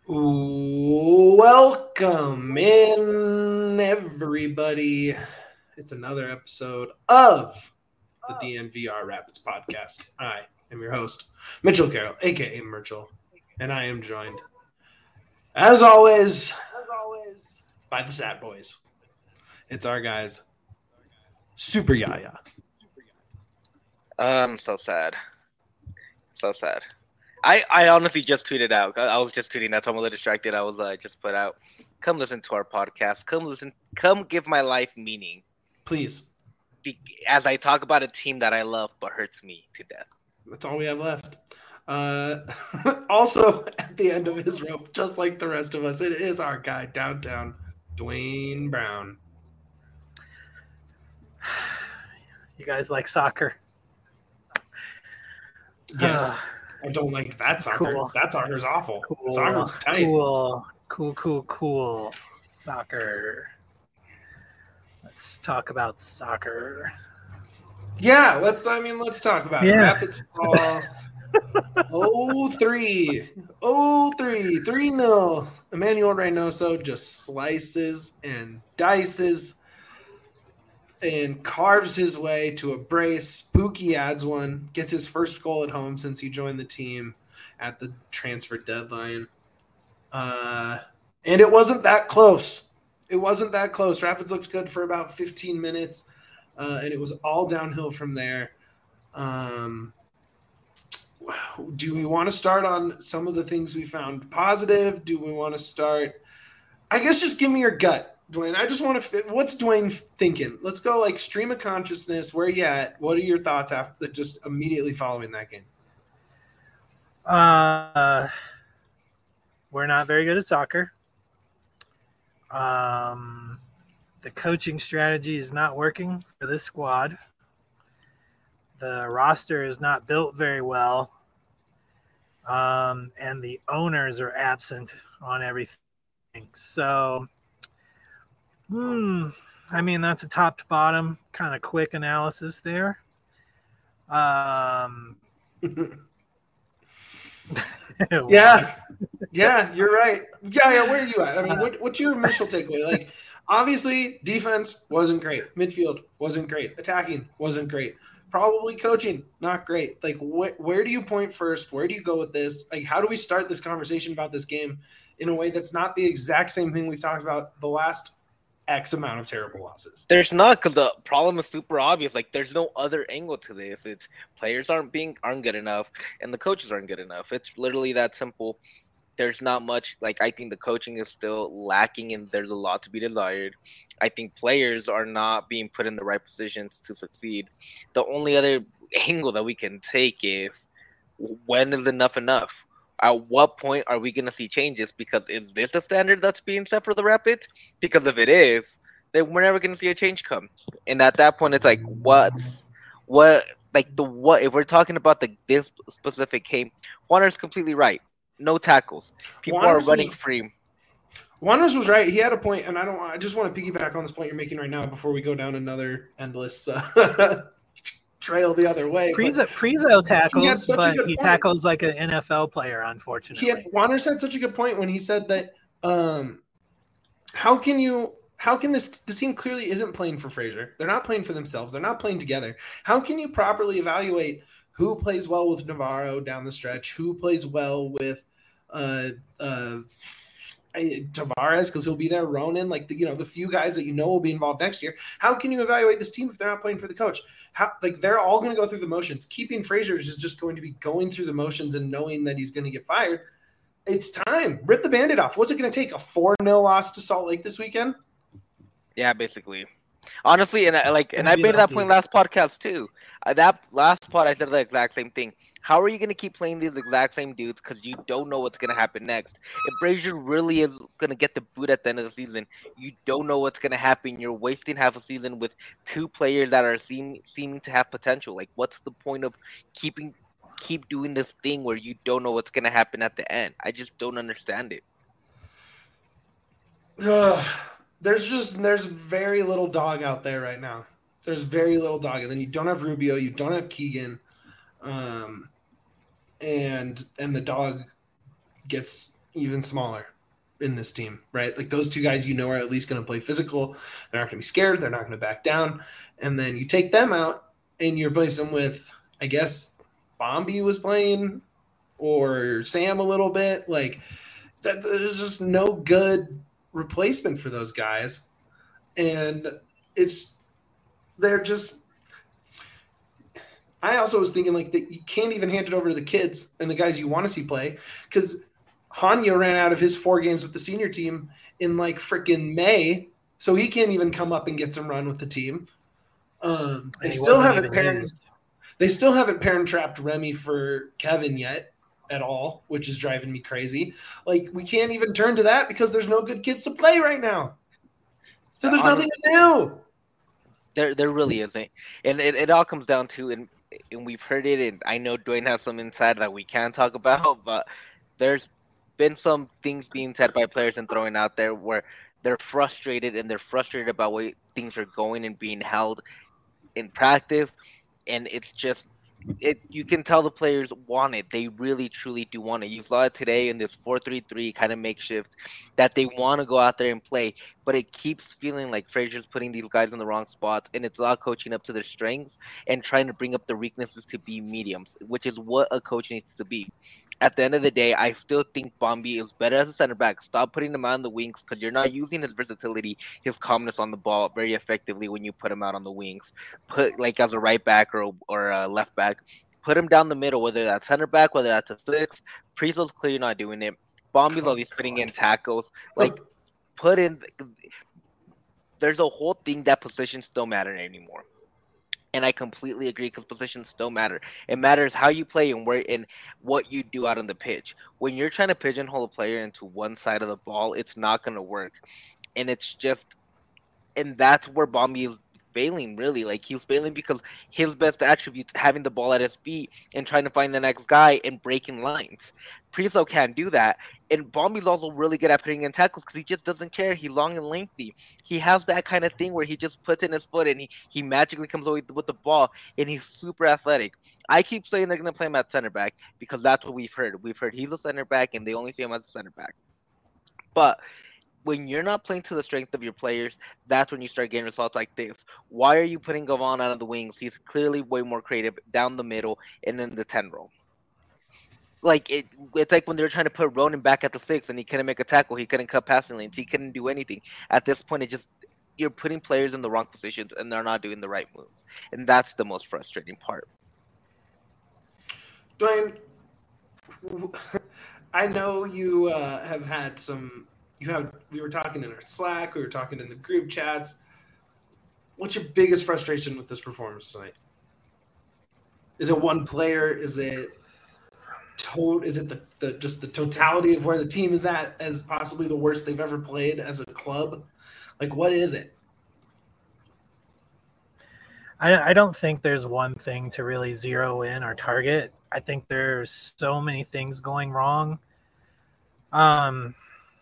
Welcome in, everybody. It's another episode of the DNVR Rapids podcast. I am your host, Mitchell Carroll, aka Mitchell, and I am joined, as always, by the Sad Boys. It's our guys, Super Yaya. I'm so sad. So sad. I honestly just tweeted out. I was just tweeting that, so I'm a little distracted. I was just put out, come listen to our podcast. Come give my life meaning. Please. As I talk about a team that I love but hurts me to death. That's all we have left. Also, at the end of his rope, just like the rest of us, it is our guy downtown, Dwayne Brown. You guys like soccer? Yes. I don't like that soccer. Cool. That soccer's awful. Cool. Soccer's tight. Cool. Soccer. Let's talk about soccer. Yeah, let's talk about it. Rapids fall 0-3. 3-0. Emmanuel Reynoso just slices and dices and carves his way to a brace. Spooky adds one, gets his first goal at home since he joined the team at the transfer deadline. And it wasn't that close. Rapids looked good for about 15 minutes, and it was all downhill from there. Do we want to start on some of the things we found positive? Do we want to start? I guess just give me your gut, Dwayne. I just want to. What's Dwayne thinking? Let's go like stream of consciousness. Where you at? What are your thoughts after just immediately following that game? We're not very good at soccer. The coaching strategy is not working for this squad. The roster is not built very well. And the owners are absent on everything. So, that's a top to bottom kind of quick analysis there. Yeah, you're right. Yeah, where are you at? I mean, what's your initial takeaway? Like, obviously, defense wasn't great. Midfield wasn't great. Attacking wasn't great. Probably coaching, not great. Like, where do you point first? Where do you go with this? Like, how do we start this conversation about this game in a way that's not the exact same thing we've talked about the last X amount of terrible losses? There's not, because the problem is super obvious. Like, there's no other angle to this. It's players aren't good enough, and the coaches aren't good enough. It's literally that simple. There's not much. Like, I think the coaching is still lacking, and there's a lot to be desired. I think players are not being put in the right positions to succeed. The only other angle that we can take is, when is enough enough? At what point are we going to see changes? Because is this the standard that's being set for the Rapids? Because if it is, then we're never going to see a change come. And at that point, it's like, if we're talking about this specific game, Juaner's completely right. No tackles. People are running free. Juaner's was right. He had a point, and I just want to piggyback on this point you're making right now before we go down another endless trail the other way. Prizo tackles, but he tackles like an NFL player, unfortunately. Juaner's had such a good point when he said that how can this team clearly isn't playing for Fraser. They're not playing for themselves. They're not playing together. How can you properly evaluate who plays well with Navarro down the stretch, who plays well with Tavares, because he'll be there, Ronan, like the few guys that will be involved next year. How can you evaluate this team if they're not playing for the coach? They're all going to go through the motions. Keeping Fraser is just going to be going through the motions and knowing that he's going to get fired. It's time. Rip the Band-Aid off. What's it going to take? A 4-0 loss to Salt Lake this weekend? Yeah, basically. Honestly, and I made that point last podcast too. That last pod, I said the exact same thing. How are you going to keep playing these exact same dudes because you don't know what's going to happen next? If Brazier really is going to get the boot at the end of the season, you don't know what's going to happen. You're wasting half a season with two players that are seeming to have potential. Like, what's the point of keep doing this thing where you don't know what's going to happen at the end? I just don't understand it. There's very little dog out there right now. There's very little dog, and then you don't have Rubio, you don't have Keegan. And the dog gets even smaller in this team, right? Like those two guys, are at least going to play physical. They're not going to be scared. They're not going to back down. And then you take them out and you replace them with, I guess, Bombi was playing or Sam a little bit. Like that, there's just no good replacement for those guys. And I also was thinking like that you can't even hand it over to the kids and the guys you want to see play because Hanya ran out of his 4 games with the senior team in like freaking May, so he can't even come up and get some run with the team. They still haven't parent trapped Remy for Kevin yet at all, which is driving me crazy. Like we can't even turn to that because there's no good kids to play right now. So there's nothing to do. There really isn't, and it all comes down to and we've heard it, and I know Dwayne has some insight that we can't talk about, but there's been some things being said by players and throwing out there where they're frustrated about where things are going and being held in practice, and it's just you can tell the players want it. They really truly do want it. You saw it today in this 4-3-3 kind of makeshift that they want to go out there and play, but it keeps feeling like Frazier's putting these guys in the wrong spots, and it's not coaching up to their strengths and trying to bring up their weaknesses to be mediums, which is what a coach needs to be. At the end of the day, I still think Bombi is better as a center back. Stop putting him out on the wings because you're not using his versatility, his calmness on the ball very effectively when you put him out on the wings. Put like as a right back or a left back. Put him down the middle, whether that's center back, whether that's a 6. Priestle's clearly not doing it. Bombi's always putting in tackles. Like, put in. There's a whole thing that positions don't matter anymore. And I completely agree because positions still matter. It matters how you play and where and what you do out on the pitch. When you're trying to pigeonhole a player into one side of the ball, it's not going to work. And it's just – and that's where Bombi is failing, really. Like, he's failing because his best attribute having the ball at his feet and trying to find the next guy and breaking lines. Priso can't do that. And Bombi's also really good at putting in tackles because he just doesn't care. He's long and lengthy. He has that kind of thing where he just puts in his foot and he magically comes away with the ball, and he's super athletic. I keep saying they're going to play him at center back because that's what we've heard. We've heard he's a center back, and they only see him as a center back. But when you're not playing to the strength of your players, that's when you start getting results like this. Why are you putting Gavon out of the wings? He's clearly way more creative down the middle and in the 10 role. Like it's like when they were trying to put Ronan back at the 6 and he couldn't make a tackle, he couldn't cut passing lanes, he couldn't do anything. At this point, you're putting players in the wrong positions and they're not doing the right moves, and that's the most frustrating part. Dwayne, I know you have had some. We were talking in our Slack, we were talking in the group chats. What's your biggest frustration with this performance tonight? Is it one player? Is it just the totality of where the team is at as possibly the worst they've ever played as a club? Like, what is it? I don't think there's one thing to really zero in or target. I think there's so many things going wrong. I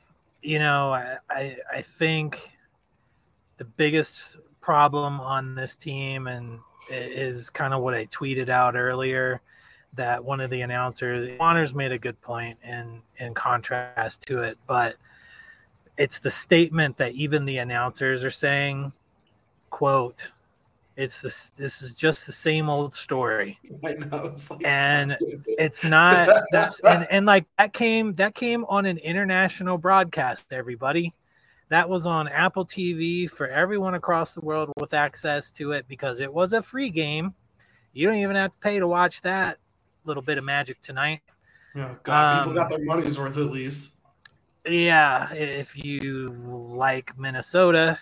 think the biggest problem on this team and is kind of what I tweeted out earlier, that one of the announcers, Honors, made a good point in contrast to it, but it's the statement that even the announcers are saying, quote, this is just the same old story. I know. It's not and like that came on an international broadcast, everybody. That was on Apple TV for everyone across the world with access to it because it was a free game. You don't even have to pay to watch that little bit of magic tonight. Oh, God, people got their money's worth at least. Yeah, if you like Minnesota.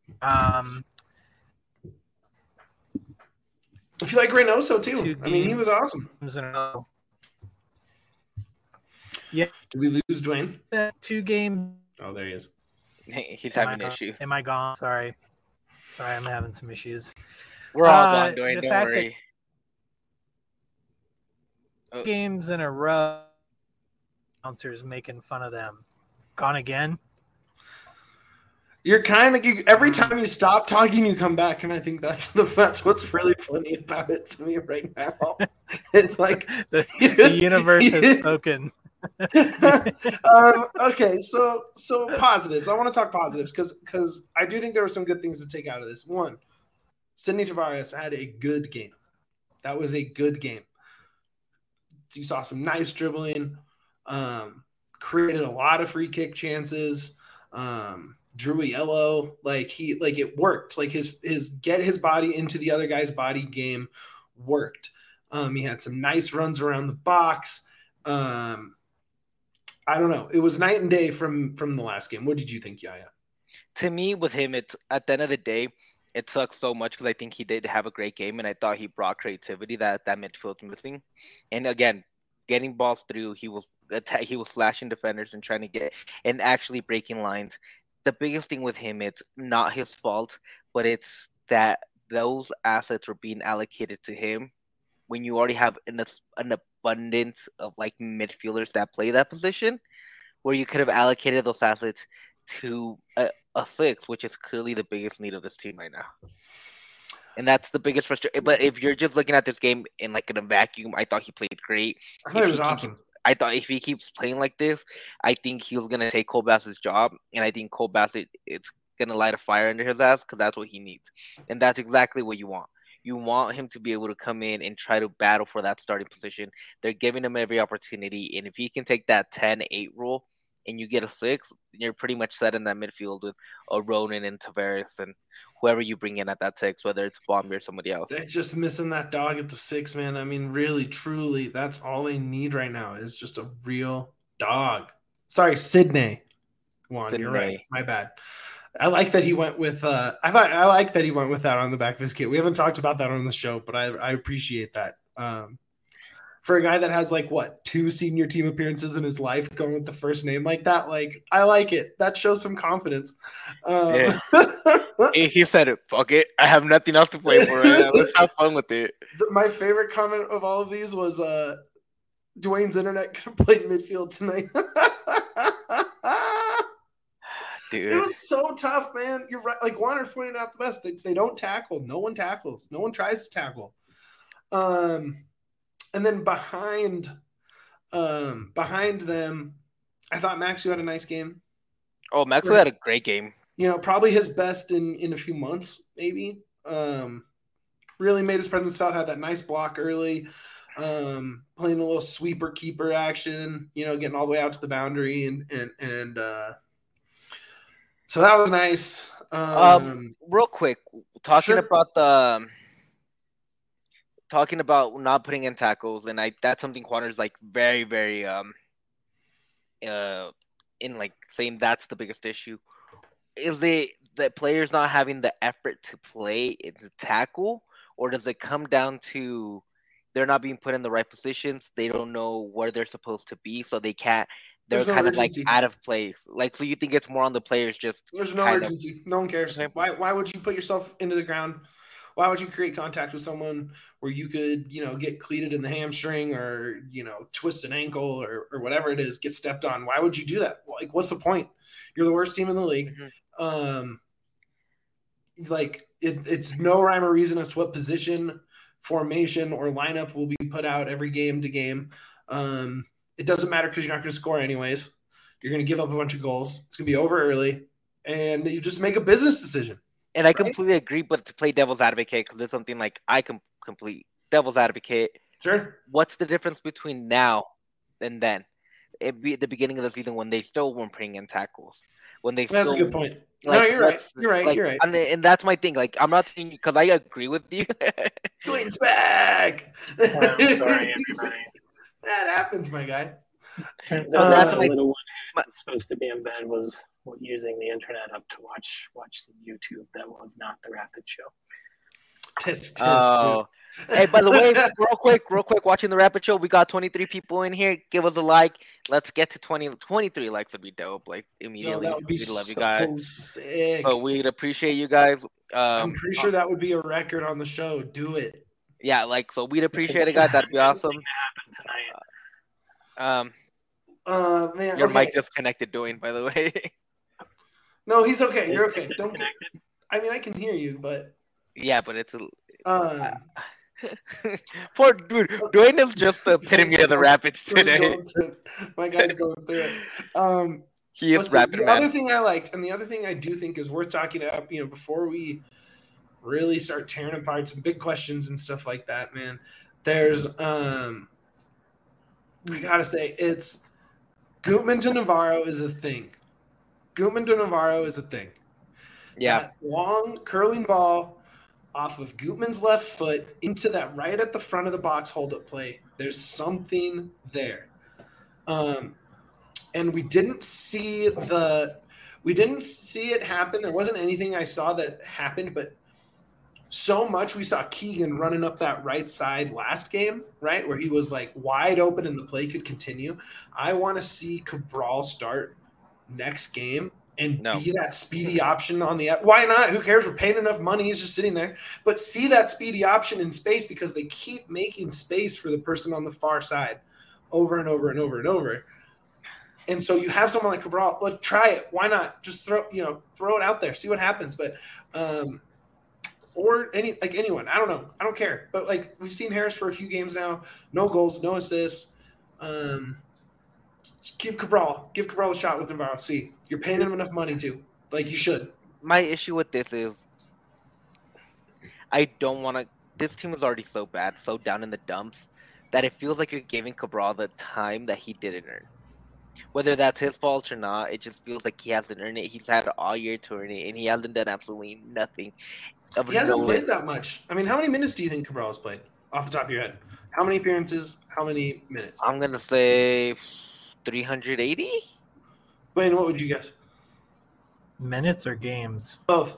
If you like Reynoso too. I mean, he was awesome. Yeah. Did we lose Dwayne? 2 games. Oh, there he is. He's having issues. Am I gone? Sorry, I'm having some issues. We're all gone, Dwayne. Don't worry. Games in a row, announcers making fun of them. Gone again? You're kind of every time you stop talking, you come back, and I think that's what's really funny about it to me right now. It's like the universe has spoken. Okay, so positives. I want to talk positives because I do think there were some good things to take out of this. One, Sidney Tavares had a good game. That was a good game. You saw some nice dribbling, created a lot of free kick chances. Drew a yellow, like it worked. Like his get his body into the other guy's body game worked. He had some nice runs around the box. I don't know. It was night and day from the last game. What did you think, Yaya? To me, with him, it's at the end of the day, it sucks so much because I think he did have a great game, and I thought he brought creativity that midfield's missing. And again, getting balls through, he was slashing defenders and trying to get and actually breaking lines. The biggest thing with him, it's not his fault, but it's that those assets were being allocated to him when you already have an abundance of like midfielders that play that position, where you could have allocated those assets to a six, which is clearly the biggest need of this team right now. And that's the biggest frustration. But if you're just looking at this game in like in a vacuum, I thought he played great. I thought it was awesome. I thought if he keeps playing like this, I think he's gonna take Cole Bassett's job, and I think Cole Bassett it's gonna light a fire under his ass because that's what he needs, and that's exactly what you want. You want him to be able to come in and try to battle for that starting position. They're giving him every opportunity, and if he can take that 10-8 rule and you get a 6, you're pretty much set in that midfield with a Ronan and Tavares and whoever you bring in at that 6, whether it's Bombi or somebody else. They're just missing that dog at the 6, man. I mean, really, truly, that's all they need right now is just a real dog. Sorry, Sidney. Juan, you're right. My bad. I like that he went with I like that he went with that on the back of his kit. We haven't talked about that on the show, but I appreciate that. For a guy that has like 2 senior team appearances in his life, going with the first name like that, like I like it. That shows some confidence. Yeah. He said it. Fuck it. I have nothing else to play for. Let's have fun with it. My favorite comment of all of these was Dwayne's internet could have played midfield tonight. Dude. It was so tough, man. You're right. Like Warner pointed out the best. They don't tackle. No one tackles. No one tries to tackle. And then behind them, I thought Maxu had a nice game. Oh, Maxu had a great game. You know, probably his best in a few months, maybe. Really made his presence felt. Had that nice block early. Playing a little sweeper keeper action. You know, getting all the way out to the boundary and so that was nice. Real quick, talking about not putting in tackles, and that's something Quanner's like very, very in like saying that's the biggest issue. Is the players not having the effort to play and to tackle, or does it come down to they're not being put in the right positions? They don't know where they're supposed to be, so they can't. They're kind of like out of place. Like, so you think it's more on the players just. There's no urgency. No one cares. Why would you put yourself into the ground? Why would you create contact with someone where you could, get cleated in the hamstring or, twist an ankle or whatever it is, get stepped on? Why would you do that? Like, what's the point? You're the worst team in the league. Mm-hmm. It's no rhyme or reason as to what position, formation, or lineup will be put out every game to game. It doesn't matter because you're not going to score anyways. You're going to give up a bunch of goals. It's going to be over early. And you just make a business decision. And I completely agree, but to play devil's advocate, because there's something like I can complete devil's advocate. Sure. What's the difference between now and then? It'd be at the beginning of the season when they still weren't putting in tackles. That's a good point. Like, no, you're right. You're right. And that's my thing. Like, I'm not saying because I agree with you. Dwayne's back. I'm sorry, everybody. That happens, my guy. Turns out the little one that's supposed to be in bed was using the internet up to watch some YouTube that was not the Rapid Show. Oh. Hey, by the way, real quick, watching the Rapid Show, we got 23 people in here. Give us a like. Let's get to 23 likes would be dope. Like immediately. That would be we'd love you guys. Sick. So we'd appreciate you guys. I'm pretty sure that would be a record on the show. Do it. Yeah, so we'd appreciate it, guys. That'd be awesome. Man, your mic just connected, Dwayne, by the way. No, he's okay. You're okay. I can hear you, but yeah, but it's Poor dude, Dwayne is just the epitome of the Rapids today. My guy's going through it. He is rapid, the man. other thing I liked, and the other thing I do think is worth talking about, before we really start tearing apart some big questions and stuff like that, man. There's we gotta say it's Gutman to Navarro is a thing. Yeah. That long curling ball off of Gutman's left foot into that right at the front of the box hold-up play. There's something there. And we didn't see it happen. There wasn't anything I saw that happened, but so much we saw Keegan running up that right side last game, right, where he was like wide open and the play could continue. I want to see Cabral start next game and be that speedy option on the – why not? Who cares? We're paying enough money. He's just sitting there. But see that speedy option in space because they keep making space for the person on the far side over and over and over and over. And so you have someone like Cabral. Look, try it. Why not? Just throw it out there. See what happens. But or anyone. I don't know. I don't care. But like we've seen Harris for a few games now. No goals, no assists. Give Cabral a shot with Navarro. See, you're paying him enough money to. Like you should. My issue with this is I don't want to. This team is already so bad, so down in the dumps, that it feels like you're giving Cabral the time that he didn't earn. Whether that's his fault or not, it just feels like he hasn't earned it. He's had all year to earn it, and he hasn't done absolutely nothing. He hasn't played that much. I mean, how many minutes do you think Cabral has played off the top of your head? How many appearances? How many minutes? I'm going to say 380. Wayne, what would you guess? Minutes or games? Both.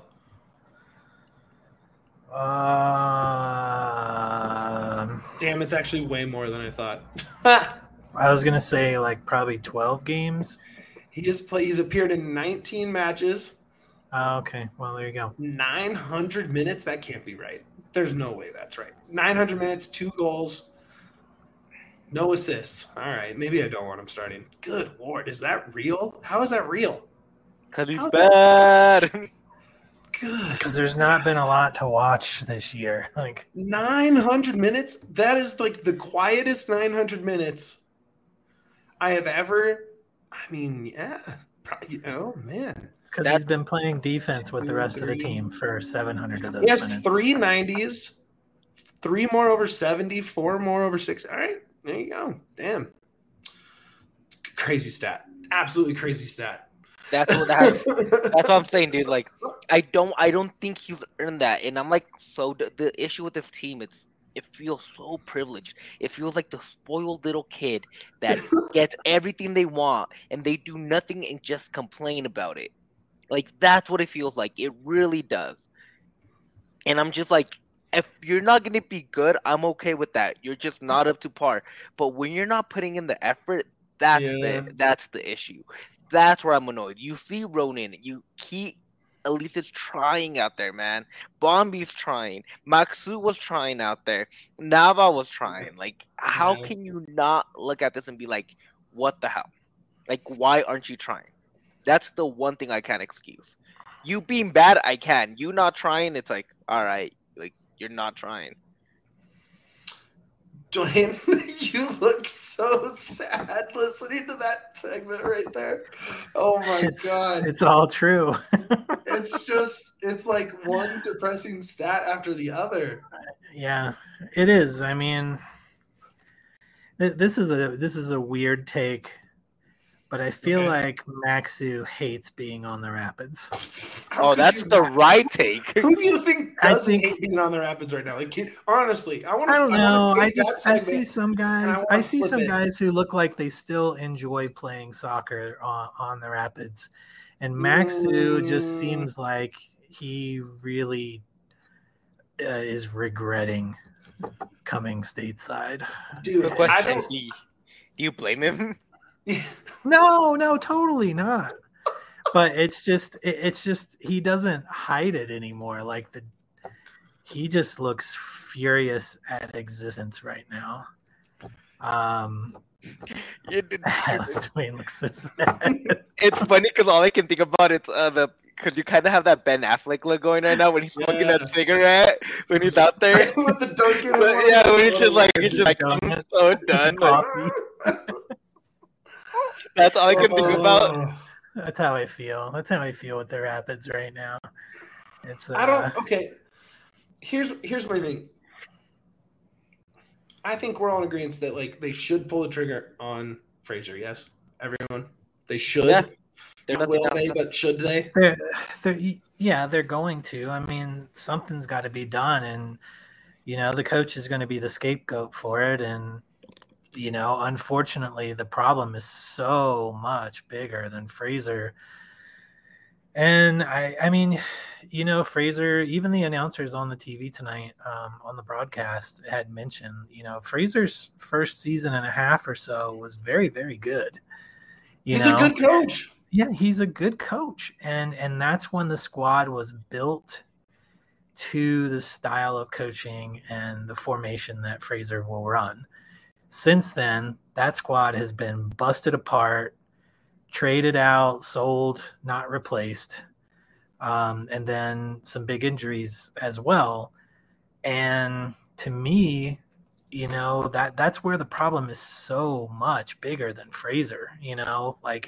Damn, it's actually way more than I thought. I was gonna say like probably 12 games. He's appeared in 19 matches. Okay, well there you go. 900 minutes. That can't be right. There's no way that's right. 900 minutes, 2 goals, no assists. All right, maybe I don't want him starting. Good Lord, is that real? How is that real? Because he's bad. Good. Because there's not been a lot to watch this year. Like 900 minutes. That is like the quietest 900 minutes I have ever. I mean, yeah. Probably, oh man. Because he's been playing defense with the rest of the team for 700 of those. He has minutes. 3 90s, 3 more over 70, 4 more over 60. All right, there you go. Damn. Crazy stat. Absolutely crazy stat. That's what I'm saying, dude. Like, I don't think he's earned that, and I'm like, so the issue with this team, it feels so privileged. It feels like the spoiled little kid that gets everything they want, and they do nothing and just complain about it. Like, that's what it feels like. It really does. And I'm just like, if you're not gonna be good, I'm okay with that. You're just not up to par. But when you're not putting in the effort, that's the issue. That's where I'm annoyed. You see Ronan, he at least is trying out there, man. Bombi's trying. Maxu was trying out there. Nava was trying. Like, how can you not look at this and be like, what the hell? Like, why aren't you trying? That's the one thing I can't excuse. You being bad, I can. You not trying, it's like, all right, like, you're not trying. Dwayne, you look so sad listening to that segment right there. Oh my God. It's all true. It's like one depressing stat after the other. Yeah, it is. I mean, this is a weird take, but I feel like Maxu hates being on the Rapids. That's the right take. Who do you think doesn't hate being on the Rapids right now? Like, honestly, I don't know. I see some guys. I see some guys who look like they still enjoy playing soccer on the Rapids, and Maxu just seems like he really is regretting coming stateside. Dude, do you blame him? No, totally not. But it's just he doesn't hide it anymore. Like he just looks furious at existence right now. Dwayne looks so sad. It's funny because all I can think about is Because you kind of have that Ben Affleck look going right now when he's smoking that cigarette when he's out there. With the Dunkin'. Yeah, when he's just like, I'm so done. That's all I can think about. That's how I feel. That's how I feel with the Rapids right now. It's okay. Here's my thing. I think we're all in agreement that like they should pull the trigger on Fraser. Yes, everyone. They should. Yeah. Will they? But should they? They're going to. I mean, something's got to be done, and the coach is going to be the scapegoat for it. And unfortunately, the problem is so much bigger than Fraser. And I mean, Fraser, even the announcers on the TV tonight, on the broadcast had mentioned, Fraser's first season and a half or so was very, very good. He's a good coach. Yeah, he's a good coach. And that's when the squad was built to the style of coaching and the formation that Fraser will run. Since then, that squad has been busted apart, traded out, sold, not replaced, and then some big injuries as well. And to me, that's where the problem is so much bigger than Fraser. Like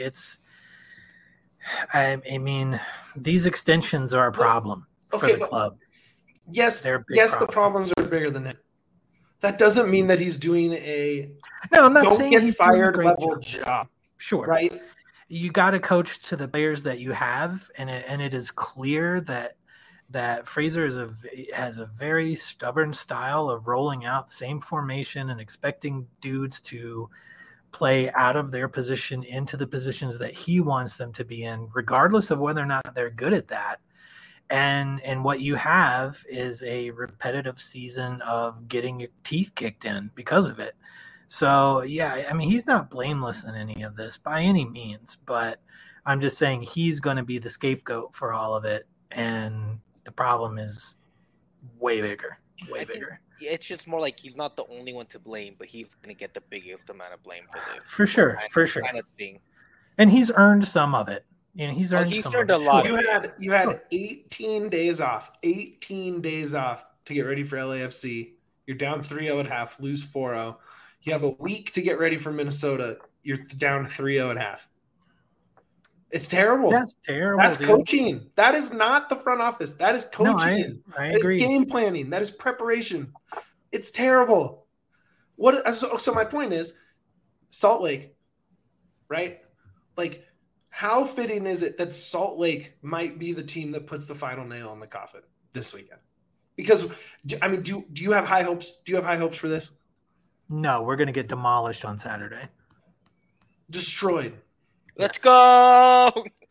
I mean, these extensions are a problem for the club. Yes, the problems are bigger than it. That doesn't mean that he's doing I'm not saying get he's fired doing a great level job. Sure. Right. You got to coach to the players that you have, and it is clear that Fraser has a very stubborn style of rolling out the same formation and expecting dudes to play out of their position into the positions that he wants them to be in, regardless of whether or not they're good at that. And what you have is a repetitive season of getting your teeth kicked in because of it. So, yeah, I mean, he's not blameless in any of this by any means, but I'm just saying he's going to be the scapegoat for all of it. And the problem is way bigger, bigger. It's just more like he's not the only one to blame, but he's going to get the biggest amount of blame for this. For sure. Kind of thing. And he's earned some of it. He's earned a lot. You had 18 days off. 18 days off to get ready for LAFC. You're down 3-0 at half, lose 4-0. You have a week to get ready for Minnesota. You're down 3-0 at half. It's terrible. That's terrible. That's coaching. That is not the front office. That is coaching. No, I agree. That is game planning. That is preparation. It's terrible. So my point is, Salt Lake, right? Like, how fitting is it that Salt Lake might be the team that puts the final nail in the coffin this weekend? Because, I mean, do you have high hopes? Do you have high hopes for this? No, we're going to get demolished on Saturday. Destroyed. Let's go.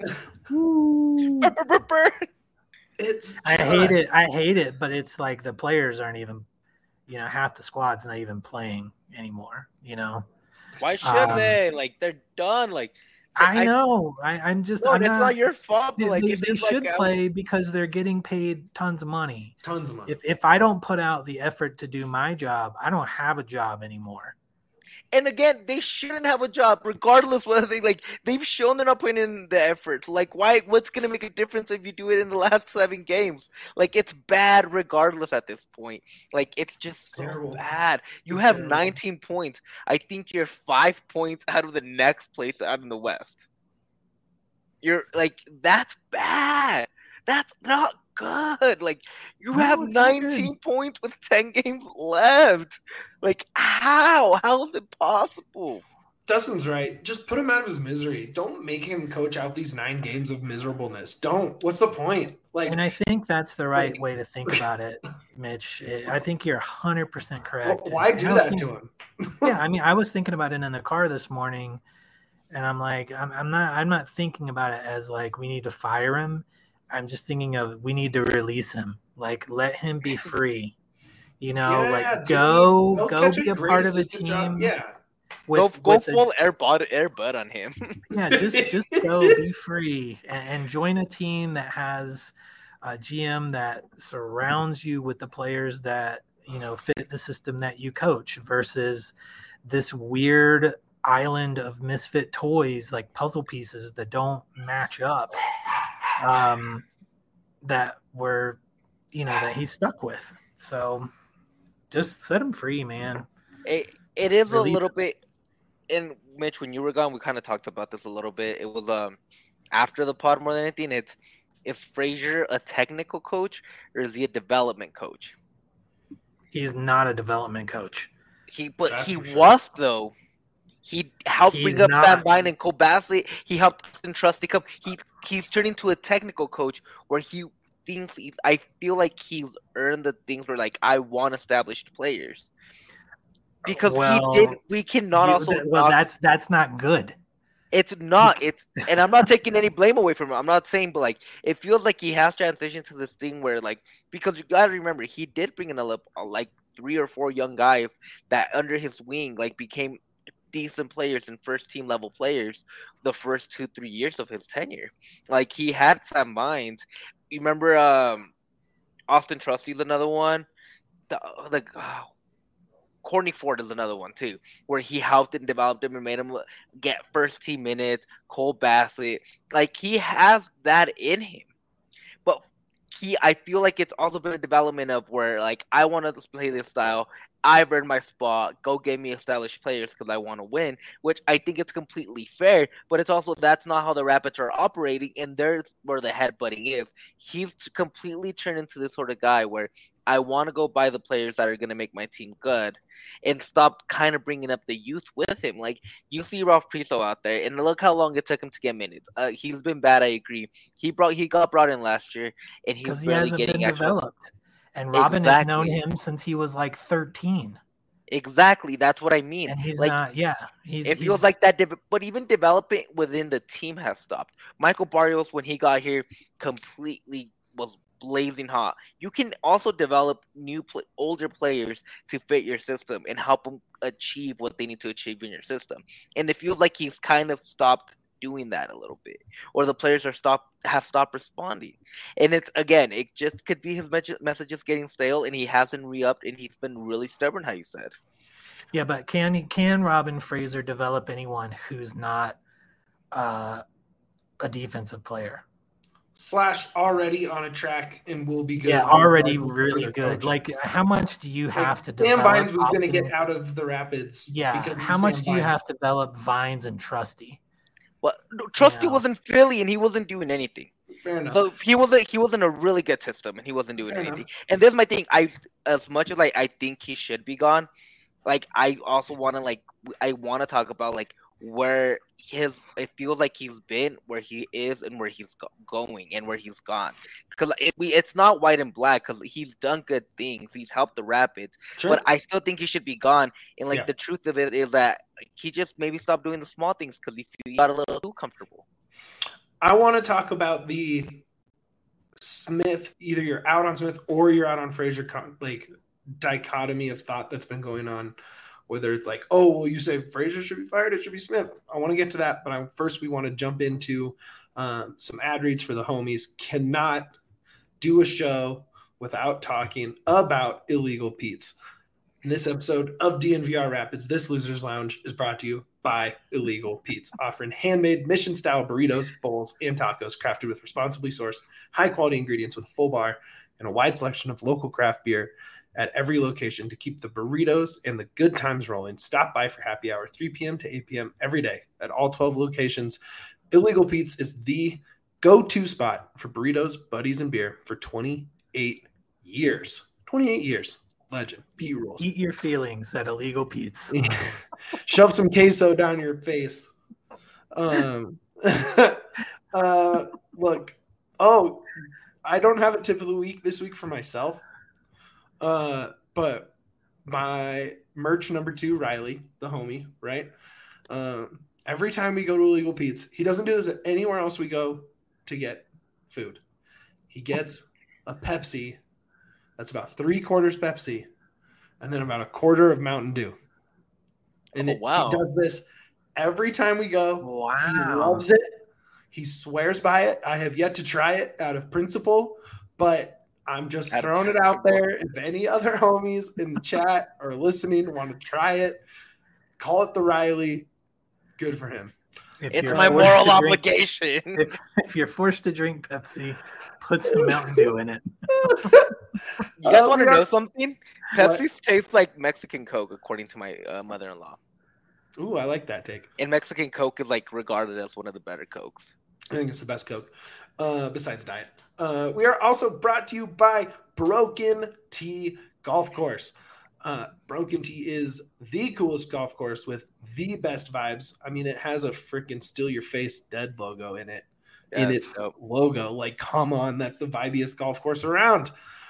I hate it, but it's like the players aren't even, half the squad's not even playing anymore, Why should they? Like, they're done. Like, I know. I'm just. No, it's not your fault. But they should play because they're getting paid tons of money. Tons of money. If I don't put out the effort to do my job, I don't have a job anymore. And again, they shouldn't have a job, regardless whether they've shown they're not putting in the effort. Like, why? What's gonna make a difference if you do it in the last 7 games? Like, it's bad regardless at this point. Like, it's just so terrible. Bad. You have 19 points. I think you're 5 points out of the next place out in the West. You're like, that's bad. That's not good. Like, you have 19 points with 10 games left. Like, how? How is it possible? Dustin's right. Just put him out of his misery. Don't make him coach out these 9 games of miserableness. Don't. What's the point? Like, and I think that's the right way to think about it, Mitch. I think you're 100% correct. Well, why do that to him? Yeah, I mean, I was thinking about it in the car this morning, and I'm like, I'm not thinking about it as like we need to fire him. I'm just thinking of we need to release him. Like, let him be free. Go be a part of a team. Job. Yeah. Go full Air Bud on him. Yeah, just go be free and join a team that has a GM that surrounds you with the players that fit the system that you coach versus this weird island of misfit toys like puzzle pieces that don't match up. that were, that he's stuck with. So just set him free, man. It is a little bit. And Mitch, when you were gone, we kind of talked about this a little bit. It was after the pod more than anything. Is Frazier a technical coach or is he a development coach? He's not a development coach. He was though. He helped bring up Sam Vine and Cole Bassett. He helped Austin Trusty come. He's turning to a technical coach where he thinks I feel like he's earned the things where like I want established players. Because we cannot also. Well, that's not good. It's not. And I'm not taking any blame away from him. I'm not saying, but like it feels like he has transitioned to this thing where like because you gotta remember he did bring in like 3 or 4 young guys that under his wing like became decent players and first team level players the first 2-3 years of his tenure. Like he had Sam Vines. You remember Austin Trusty's another one. Courtney Ford is another one too, where he helped and developed him and made him get first team minutes. Cole Bassett, like he has that in him, but I feel like it's also been a development of where like I want to play this style. I've earned my spot. Go get me established players because I want to win, which I think it's completely fair. But it's also that's not how the Rapids are operating, and there's where the headbutting is. He's completely turned into this sort of guy where I want to go buy the players that are going to make my team good and stop kind of bringing up the youth with him. Like, you see Ralph Priso out there, and look how long it took him to get minutes. He's been bad, I agree. He got brought in last year, and he's barely getting developed. And Robin has known him since he was like 13. Exactly. That's what I mean. And he's like, not, it feels like that, but even developing within the team has stopped. Michael Barrios, when he got here, completely was blazing hot. You can also develop older players to fit your system and help them achieve what they need to achieve in your system. And it feels like he's kind of stopped doing that a little bit, or the players have stopped responding. And it just could be his messages getting stale, and he hasn't re-upped, and he's been really stubborn, how you said. Yeah, but can Robin Fraser develop anyone who's not a defensive player? / already on a track and will be good. Yeah, already really good. Like, how much do you have to develop? Sam Vines was going to get out of the Rapids. Yeah, how much do you have to develop Vines and Trusty? Well, Trusty was in Philly and he wasn't doing anything. Fair enough. So he was in a really good system and he wasn't doing anything. And there's my thing. As much as I think he should be gone, like I also want to talk about like where it feels like he's been, where he is, and where he's going and where he's gone. Because it's not white and black. Because he's done good things, he's helped the Rapids, but I still think he should be gone. And the truth of it is that he just maybe stopped doing the small things because he got a little too comfortable. I want to talk about the Smith. Either you're out on Smith or you're out on Frazier. Like dichotomy of thought that's been going on. Whether it's like, oh, well, you say Frazier should be fired, it should be Smith. I want to get to that, but first we want to jump into some ad reads for the homies. Cannot do a show without talking about Illegal Pete's. In this episode of DNVR Rapids, this Losers Lounge is brought to you by Illegal Pete's, offering handmade mission-style burritos, bowls, and tacos crafted with responsibly sourced, high-quality ingredients with a full bar and a wide selection of local craft beer at every location to keep the burritos and the good times rolling. Stop by for happy hour, 3 p.m. to 8 p.m. every day at all 12 locations. Illegal Pete's is the go-to spot for burritos, buddies, and beer for 28 years. 28 years. Legend. Pete rules. Eat your feelings at Illegal Pete's. Shove some queso down your face. Look. Oh, I don't have a tip of the week this week for myself. But my merch number 2, Riley, the homie, right? Every time we go to Illegal Pete's, he doesn't do this anywhere else we go to get food. He gets a Pepsi that's about 3/4 Pepsi and then about 1/4 of Mountain Dew. And he does this every time we go. Wow. He loves it. He swears by it. I have yet to try it out of principle, but I'm just throwing it out there. If any other homies in the chat or listening want to try it, call it the Riley. Good for him. It's my moral obligation. If you're forced to drink Pepsi, put some Mountain Dew in it. You guys want to know something? Pepsi tastes like Mexican Coke, according to my mother-in-law. Ooh, I like that take. And Mexican Coke is like regarded as one of the better Cokes. I think it's the best Coke, besides Diet. We are also brought to you by Broken Tee Golf Course. Broken Tee is the coolest golf course with the best vibes. I mean, it has a freaking Steal Your Face Dead logo in it. In its logo. Like, come on, that's the vibiest golf course around.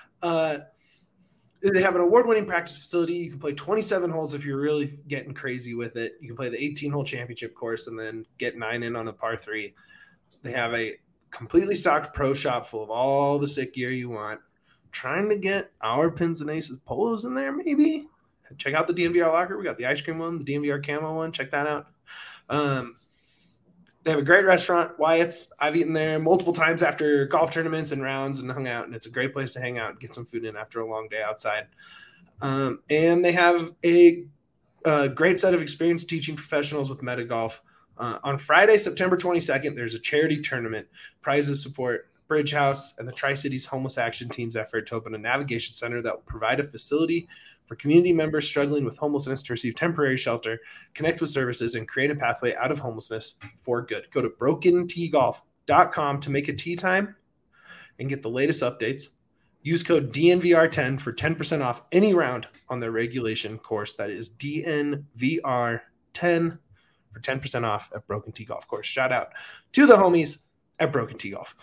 They have an award-winning practice facility. You can play 27 holes if you're really getting crazy with it. You can play the 18-hole championship course and then get 9 in on a par 3. They have a completely stocked pro shop full of all the sick gear you want. Trying to get our Pins and Aces polos in there, maybe. Check out the DNVR locker. We got the ice cream one, the DNVR camo one. Check that out. They have a great restaurant, Wyatt's. I've eaten there multiple times after golf tournaments and rounds and hung out, and it's a great place to hang out and get some food in after a long day outside. And they have a great set of experienced teaching professionals with Meta Golf. On Friday, September 22nd, there's a charity tournament. Prizes support Bridge House and the Tri-Cities Homeless Action Team's effort to open a navigation center that will provide a facility for community members struggling with homelessness to receive temporary shelter, connect with services, and create a pathway out of homelessness for good. Go to BrokenTeeGolf.com to make a tee time and get the latest updates. Use code DNVR10 for 10% off any round on their regulation course. That is DNVR10 for 10% off at Broken Tee Golf Course. Shout out to the homies at Broken Tee Golf.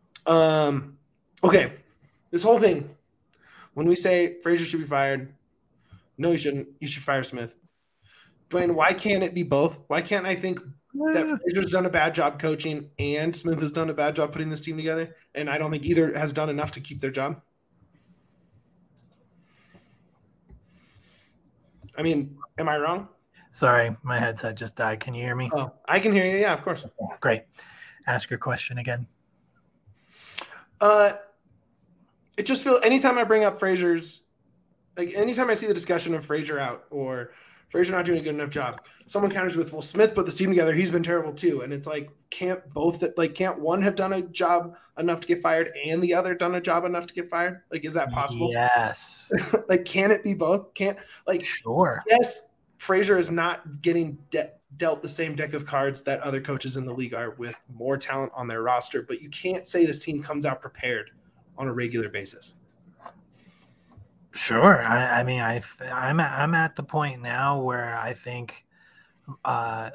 Okay, this whole thing, when we say Frazier should be fired, no, you shouldn't. You should fire Smith. Dwayne, why can't it be both? Why can't I think that Frazier's done a bad job coaching and Smith has done a bad job putting this team together? And I don't think either has done enough to keep their job. I mean, am I wrong? Sorry, my headset just died. Can you hear me? Oh, I can hear you. Yeah, of course. Great. Ask your question again. It just feels anytime I bring up Frazier's, like anytime I see the discussion of Frazier out or Frazier not doing a good enough job, someone counters with, well, Smith put this team together. He's been terrible too. And it's like, can't one have done a job enough to get fired and the other done a job enough to get fired? Like, is that possible? Yes. Like, can it be both? Sure. Yes, Frazier is not getting dealt the same deck of cards that other coaches in the league are with more talent on their roster, but you can't say this team comes out prepared on a regular basis. Sure. I'm at the point now where I think I'll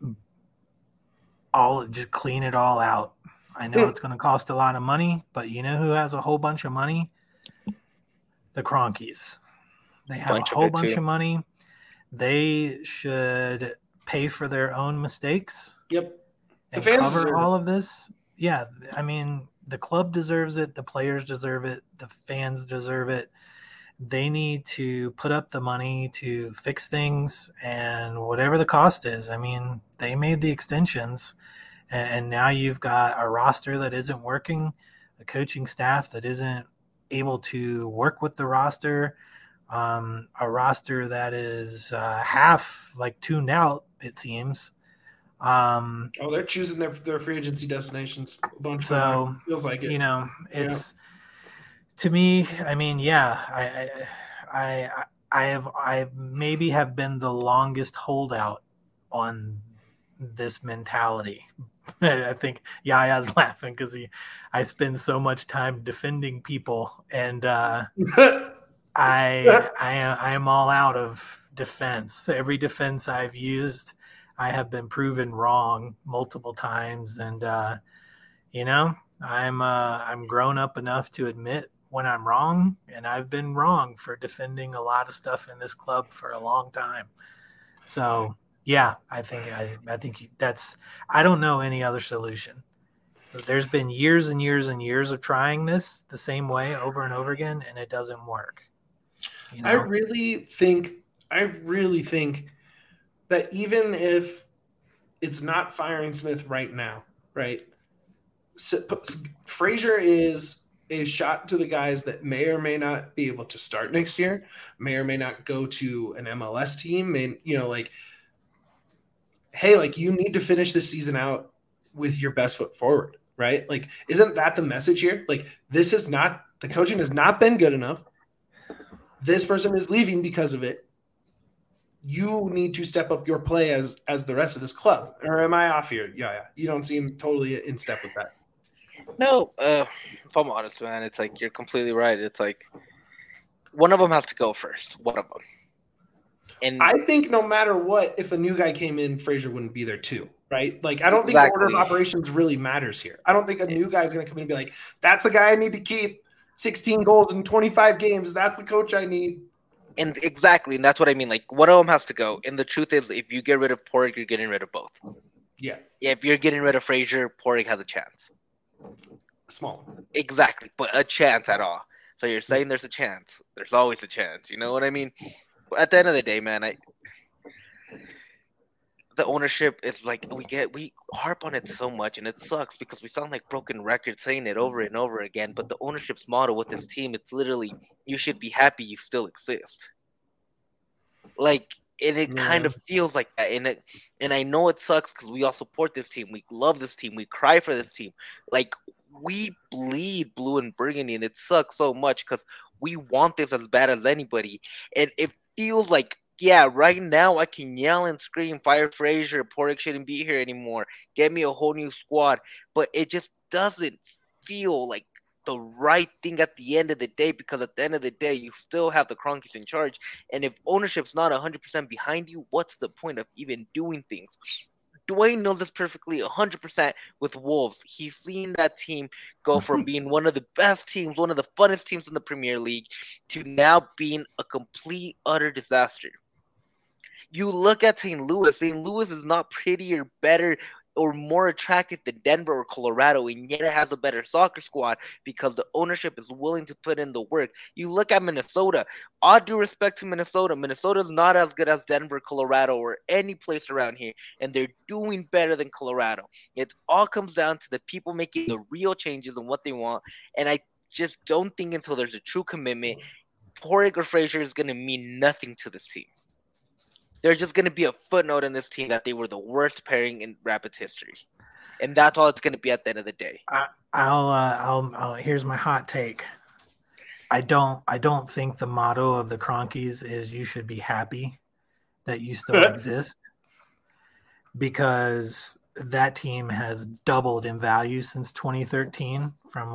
just clean it all out. I know it's going to cost a lot of money, but you know who has a whole bunch of money? The Cronkies. They have a whole bunch of money. They should pay for their own mistakes. Yep. And cover all of this. Yeah. I mean, the club deserves it. The players deserve it. The fans deserve it. They need to put up the money to fix things and whatever the cost is. I mean, they made the extensions and now you've got a roster that isn't working, a coaching staff that isn't able to work with the roster, a roster that is half like tuned out, it seems. They're choosing their free agency destinations a bunch. So feels like it. You know, it's to me. I mean, yeah, I maybe have been the longest holdout on this mentality. I think Yaya's laughing because I spend so much time defending people, and I am all out of defense. Every defense I've used, I have been proven wrong multiple times, and you know, I'm grown up enough to admit when I'm wrong, and I've been wrong for defending a lot of stuff in this club for a long time. So yeah, I think that's, I don't know any other solution. There's been years and years and years of trying this the same way over and over again, and it doesn't work. You know? I really think that even if it's not firing Smith right now, right? Frazier is a shot to the guys that may or may not be able to start next year, may or may not go to an MLS team. hey, like you need to finish this season out with your best foot forward, right? Like, isn't that the message here? Like, this is not the coaching has not been good enough. This person is leaving because of it. You need to step up your play as the rest of this club. Or am I off here? Yeah. You don't seem totally in step with that. No, if I'm honest, man, it's like you're completely right. It's like one of them has to go first. One of them. And I think no matter what, if a new guy came in, Frazier wouldn't be there too, right? Like, I don't think Exactly. the order of operations really matters here. I don't think a new guy is going to come in and be like, that's the guy I need to keep. 16 goals in 25 games. That's the coach I need. And exactly, and that's what I mean. Like, one of them has to go. And the truth is, if you get rid of Porig, you're getting rid of both. Yeah. If you're getting rid of Frazier, Porig has a chance. Small. Exactly, but a chance at all. So you're saying there's a chance. There's always a chance. You know what I mean? But at the end of the day, man, the ownership is like we harp on it so much, and it sucks because we sound like broken records saying it over and over again. But the ownership's motto with this team, it's literally you should be happy you still exist. Like, and it kind of feels like that, and I know it sucks because we all support this team, we love this team, we cry for this team, like we bleed blue and burgundy, and it sucks so much because we want this as bad as anybody, and it feels like. Yeah, right now I can yell and scream, fire Frazier, Porig shouldn't be here anymore, get me a whole new squad, but it just doesn't feel like the right thing at the end of the day, because at the end of the day, you still have the Kroenkes in charge, and if ownership's not 100% behind you, what's the point of even doing things? Dwayne knows this perfectly 100% with Wolves. He's seen that team go from being one of the best teams, one of the funnest teams in the Premier League, to now being a complete, utter disaster. You look at St. Louis. St. Louis is not prettier, better, or more attractive than Denver or Colorado, and yet it has a better soccer squad because the ownership is willing to put in the work. You look at Minnesota. All due respect to Minnesota, Minnesota's not as good as Denver, Colorado, or any place around here, and they're doing better than Colorado. It all comes down to the people making the real changes and what they want, and I just don't think until there's a true commitment, Porig or Frazier is going to mean nothing to this team. There's just going to be a footnote in this team that they were the worst pairing in Rapids history, and that's all it's going to be at the end of the day. I'll here's my hot take. I don't think the motto of the Kroenkes is you should be happy that you still exist, because that team has doubled in value since 2013 from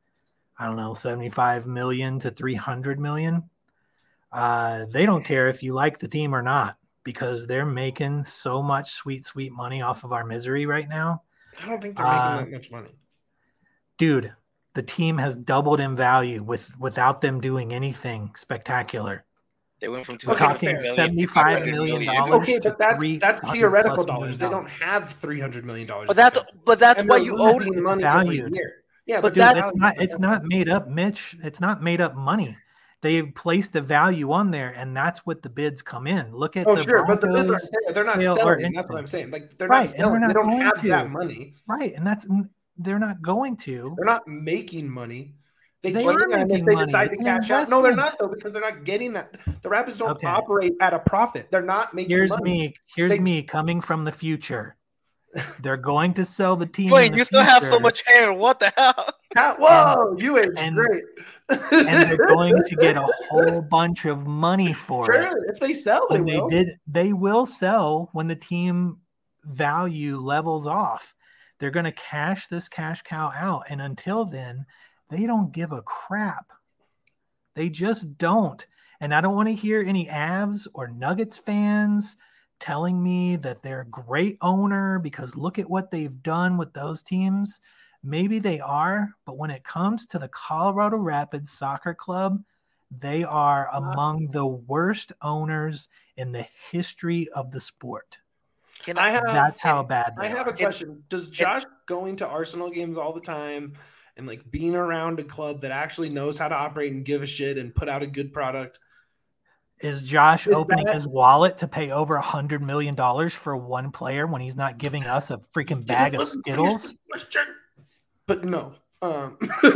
75 million to 300 million. They don't care if you like the team or not, because they're making so much sweet money off of our misery right now. I don't think they're making that much money. Dude, the team has doubled in value without them doing anything spectacular. They went from We're talking $75 million. Okay, but that's theoretical dollars. They don't have $300 million. But that's why you own the money every year. Yeah, but dude, it's not made up, Mitch. It's not made up money. They place the value on there, and that's what the bids come in. Look at but the bids are they're not selling. That's what I'm saying. Like they're not selling. They don't have that money. Right, and they're not going to. They're not making money. They are making money. Decide to cash out. No, they're not though, because they're not getting that. The Rapids don't operate at a profit. They're not making money. Here's me coming from the future. They're going to sell the team. Wait, you still have so much hair. What the hell? Whoa, you aged great. And they're going to get a whole bunch of money for it. Sure, if they sell, they will sell when the team value levels off. They're going to cash this cash cow out, and until then, they don't give a crap. They just don't. And I don't want to hear any Avs or Nuggets fans telling me that they're a great owner because look at what they've done with those teams. Maybe they are, but when it comes to the Colorado Rapids Soccer Club, they are among the worst owners in the history of the sport. That's how bad they are. I have a question. Does Josh going to Arsenal games all the time and being around a club that actually knows how to operate and give a shit and put out a good product? Is Josh opening his wallet to pay over $100 million for one player when he's not giving us a freaking bag of Skittles? But no. I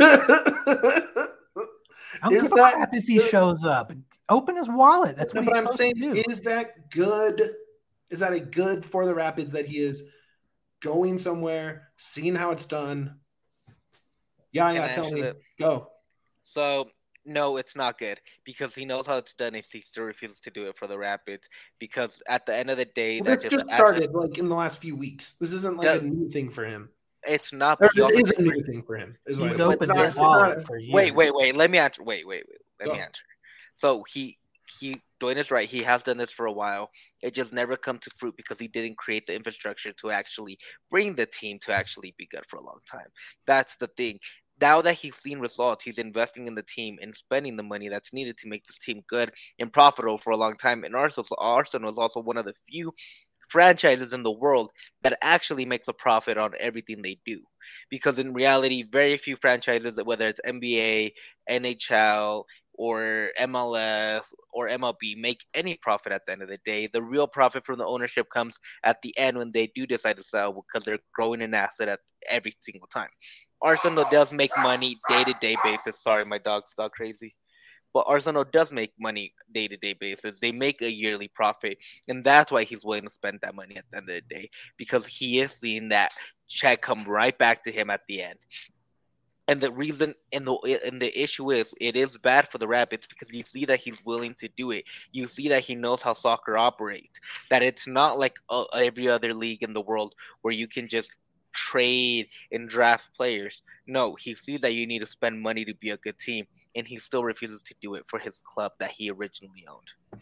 don't give a crap if he shows up. Open his wallet. That's what I'm saying. Is that good Is that a good for the Rapids that he is going somewhere, seeing how it's done? Yeah, tell me. Go. So, no, it's not good because he knows how it's done and he still refuses to do it for the Rapids because at the end of the day, that just started like in the last few weeks. This isn't like a new thing for him. It's not. This is a new thing for him. He's opened his wallet for years. Wait. Let me answer. Let me answer. So he Dwayne is right. He has done this for a while. It just never come to fruit because he didn't create the infrastructure to actually bring the team to actually be good for a long time. That's the thing. Now that he's seen results, he's investing in the team and spending the money that's needed to make this team good and profitable for a long time. And Arsenal is also one of the few franchises in the world that actually makes a profit on everything they do. Because in reality, very few franchises, whether it's NBA, NHL, or MLS or MLB, make any profit at the end of the day. The real profit from the ownership comes at the end when they do decide to sell because they're growing an asset at every single time. Arsenal does make money day-to-day basis. Sorry, my dog's dog crazy. But Arsenal does make money day-to-day basis. They make a yearly profit, and that's why he's willing to spend that money at the end of the day, because he is seeing that check come right back to him at the end. And the reason and the issue is it is bad for the Rapids because you see that he's willing to do it. You see that he knows how soccer operates, that it's not like every other league in the world where you can just trade and draft players. No, he sees that you need to spend money to be a good team, and he still refuses to do it for his club that he originally owned.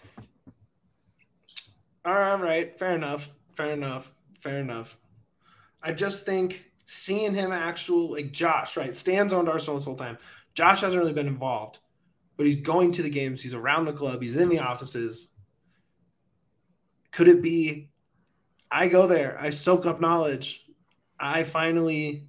All right, fair enough. I just think seeing him like Josh, right? Stan's owned Arsenal this whole time. Josh hasn't really been involved, but he's going to the games. He's around the club. He's in the offices. Could it be I go there, I soak up knowledge, I finally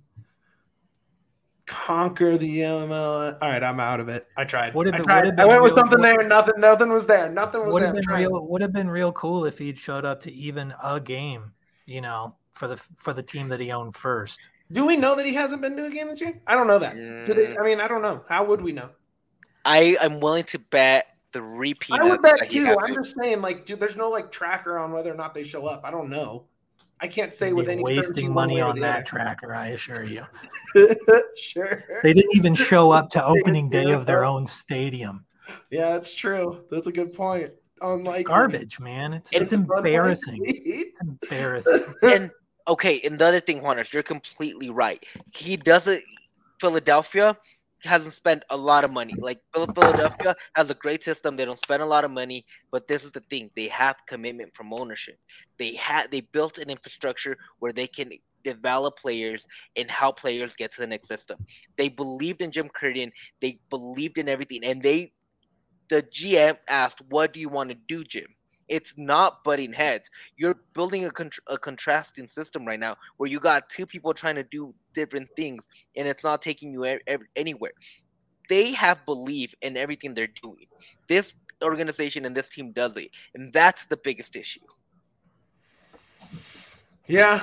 conquer the MLS. All right, I'm out of it. I tried. I went with something there. Nothing was there. Would have been real cool if he'd showed up to even a game, for the team that he owned first. Do we know that he hasn't been to a game this year? I don't know that. I don't know. How would we know? I'm willing to bet the repeat. I would bet too. I'm just saying, there's no tracker on whether or not they show up. I don't know. I can't say with any wasting money on that tracker, I assure you. Sure. They didn't even show up to opening day of their own stadium. Yeah, that's true. That's a good point. It's garbage, man. It's embarrassing. It's embarrassing. And the other thing, Juanes, you're completely right. Philadelphia hasn't spent a lot of money. Like Philadelphia has a great system. They don't spend a lot of money, but this is the thing: they have commitment from ownership. They built an infrastructure where they can develop players and how players get to the next system. They believed in Jim Curtin. They believed in everything, and the GM asked, "What do you want to do, Jim?" It's not butting heads. You're building a contrasting system right now where you got two people trying to do different things, and it's not taking you anywhere. They have belief in everything they're doing. This organization and this team does it, and that's the biggest issue. Yeah.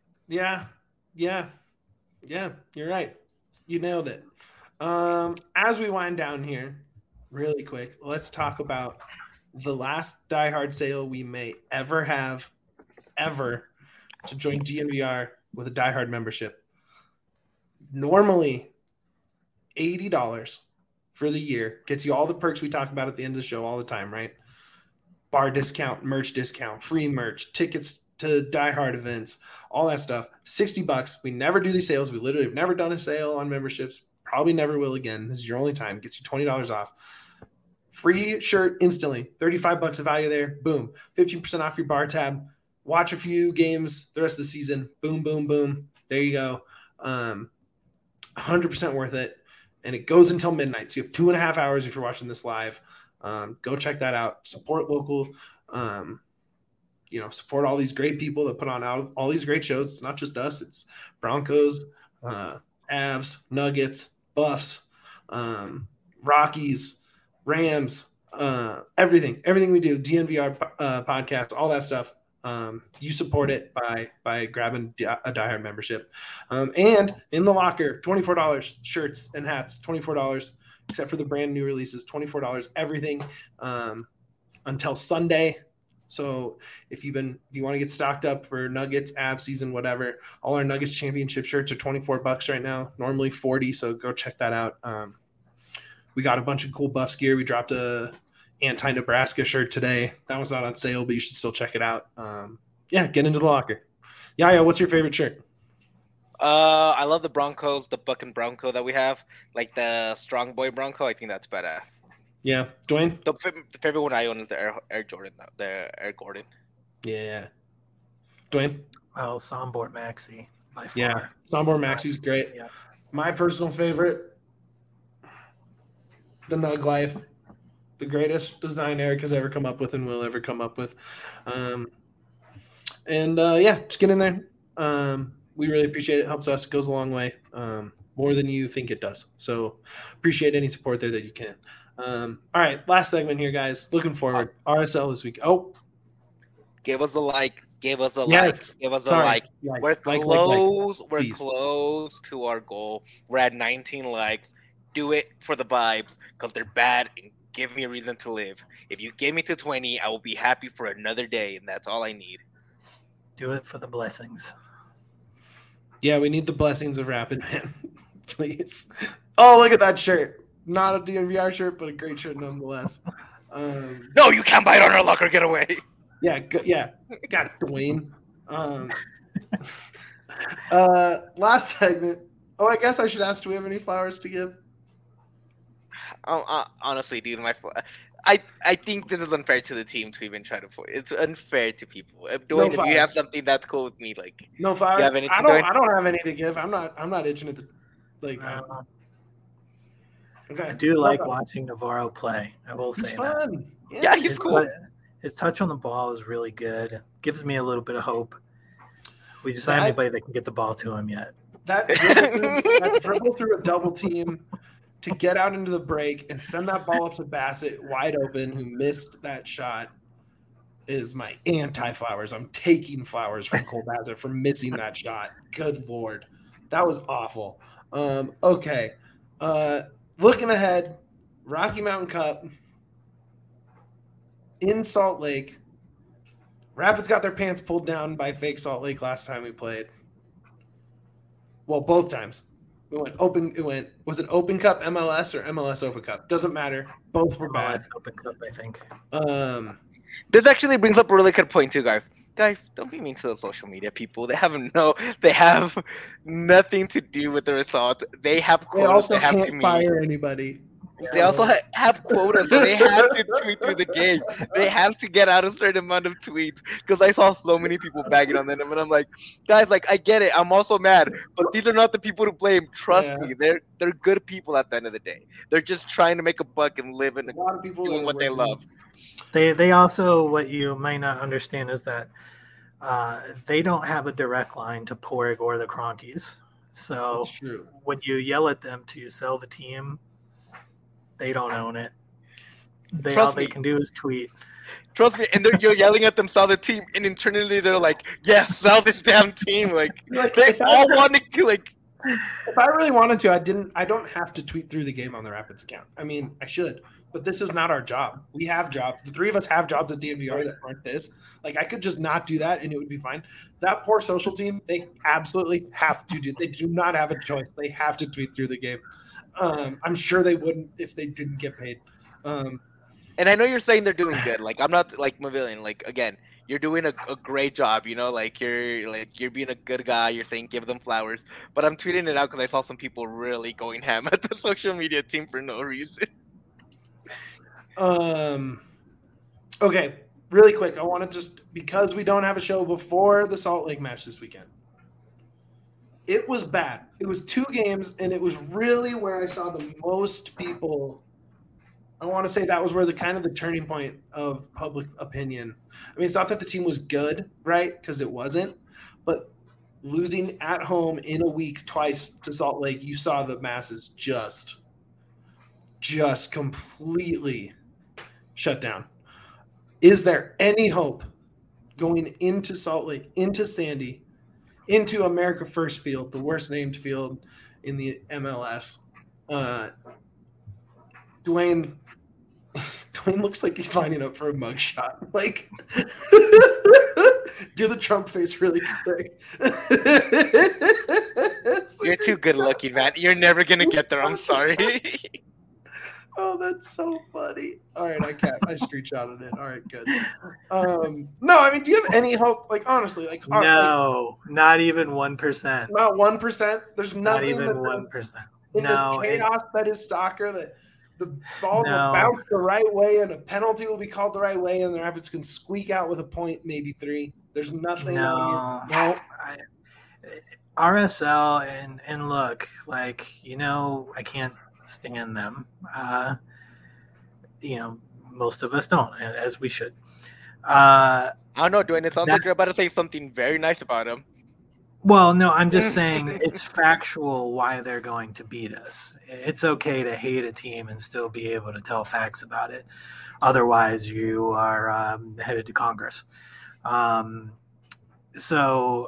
You're right. You nailed it. As we wind down here, really quick, let's talk about the last Die Hard sale we may ever have, to join DNVR with a Die Hard membership. Normally, $80 for the year gets you all the perks we talk about at the end of the show all the time, right? Bar discount, merch discount, free merch, tickets to Die Hard events, all that stuff. $60. We never do these sales. We literally have never done a sale on memberships. Probably never will again. This is your only time. Gets you $20 off. Free shirt instantly. $35 of value there. Boom. 15% off your bar tab. Watch a few games the rest of the season. Boom, boom, boom. There you go. 100% worth it. And it goes until midnight. So you have 2.5 hours if you're watching this live. Go check that out. Support local. Support all these great people that put on all these great shows. It's not just us. It's Broncos, Avs, Nuggets, Buffs, Rockies, Rams, everything we do, DNVR podcast, all that stuff. You support it by grabbing a Die Hard membership. And in the locker, $24 shirts and hats, $24, except for the brand new releases, $24, everything until Sunday. So if you want to get stocked up for Nuggets, Avs season, whatever, all our Nuggets championship shirts are $24 right now, normally $40. So go check that out. We got a bunch of cool Buffs gear. We dropped a anti-Nebraska shirt today. That one's not on sale, but you should still check it out. Get into the locker. Yeah, what's your favorite shirt? I love the Broncos, the Buck and Bronco that we have, like the Strong Boy Bronco. I think that's badass. Yeah, Dwayne. The favorite one I own is the Air Jordan, the Air Gordon. Yeah, Dwayne. Oh, Sombor Maxi by far. Yeah, Sombor Maxi's great. Yeah. My personal favorite, the Nug Life, the greatest design Eric has ever come up with and will ever come up with. Just get in there. We really appreciate it. It helps us. It goes a long way, more than you think it does. So appreciate any support there that you can. All right, last segment here, guys. Looking forward. RSL this week. Oh, give us a like. Give us a yes. like. Give us Sorry. a like. We're close. We're Please. close to our goal. We're at 19 likes. Do it for the vibes because they're bad and give me a reason to live. If you get me to 20, I will be happy for another day, and that's all I need. Do it for the blessings. Yeah, we need the blessings of Rapid, man. Please. Oh, look at that shirt. Not a DNVR shirt, but a great shirt nonetheless. No, you can't bite on our luck or get away. Yeah. Got it, Dwayne. Last segment. Oh, I guess I should ask, do we have any flowers to give? Honestly, dude, I think this is unfair to the team to even try to put. It's unfair to people. Dwayne, if you have something that's cool with me, like no flowers. You have anything, I don't have any to give. I'm not itching at the like. Okay. I do like watching Navarro play. I will say fun. that. Yeah, he's cool. His touch on the ball is really good. Gives me a little bit of hope. We just don't have anybody that can get the ball to him yet. That dribble through a double team to get out into the break and send that ball up to Bassett wide open, who missed that shot, is my anti-Flowers. I'm taking flowers from Cole Bassett for missing that shot. Good Lord. That was awful. Okay. Looking ahead, Rocky Mountain Cup in Salt Lake. Rapids got their pants pulled down by fake Salt Lake last time we played. Well, both times. Was it Open Cup MLS or MLS Open Cup? Doesn't matter. Both were bad. Open Cup, I think. This actually brings up a really good point too, guys. Guys, don't be mean to the social media people. They have nothing to do with the result. They have quotas. They also have can't fire anybody. They also have quotas. So they have to tweet through the game. They have to get out a certain amount of tweets. Because I saw so many people bagging on them, and I'm like, guys, like I get it. I'm also mad, but these are not the people to blame. Trust me, they're good people at the end of the day. They're just trying to make a buck and live in doing what they love. They also, what you might not understand is that they don't have a direct line to Porg or the Cronkies. So when you yell at them to sell the team, they don't own it. All they can do is tweet. Trust me, and you're yelling at them, sell the team, and internally they're like, "Yeah, sell this damn team!" Like they all want to like. If I really wanted to, I don't have to tweet through the game on the Rapids account. I mean, I should, but this is not our job. We have jobs. The three of us have jobs at DNVR that aren't this. Like I could just not do that, and it would be fine. That poor social team, they absolutely have to do. They do not have a choice. They have to tweet through the game. I'm sure they wouldn't if they didn't get paid. And I know you're saying they're doing good. Like I'm not like Mavillion. Like again, you're doing a great job. You know, like you're being a good guy. You're saying give them flowers. But I'm tweeting it out because I saw some people really going ham at the social media team for no reason. Okay, really quick. I want to just because we don't have a show before the Salt Lake match this weekend. It was bad. It was 2 games, and it was really where I saw the most people. I want to say that was where the turning point of public opinion. I mean, it's not that the team was good, right? Because it wasn't. But losing at home in a week twice to Salt Lake, you saw the masses just completely shut down. Is there any hope going into Salt Lake, into Sandy, into America First Field, the worst named field in the MLS? Dwayne, Dwayne looks like he's lining up for a mugshot. Like, do the Trump face really quick. You're too good looking, man. You're never gonna get there. I'm sorry. Oh, that's so funny. All right, I screenshotted it. All right, good. No, I mean, do you have any hope? Like, honestly, no, not even 1%. Not 1%. There's nothing. Not even 1%. In this chaos that is soccer, that the ball will bounce the right way and a penalty will be called the right way, and the Rapids can squeak out with a point, maybe 3. There's nothing. No. RSL and look, like, I can't stand them. Most of us don't, as we should. I don't know, Dwayne. It sounds like you're about to say something very nice about him. Well, no, I'm just saying it's factual why they're going to beat us. It's okay to hate a team and still be able to tell facts about it. Otherwise, you are headed to Congress. So,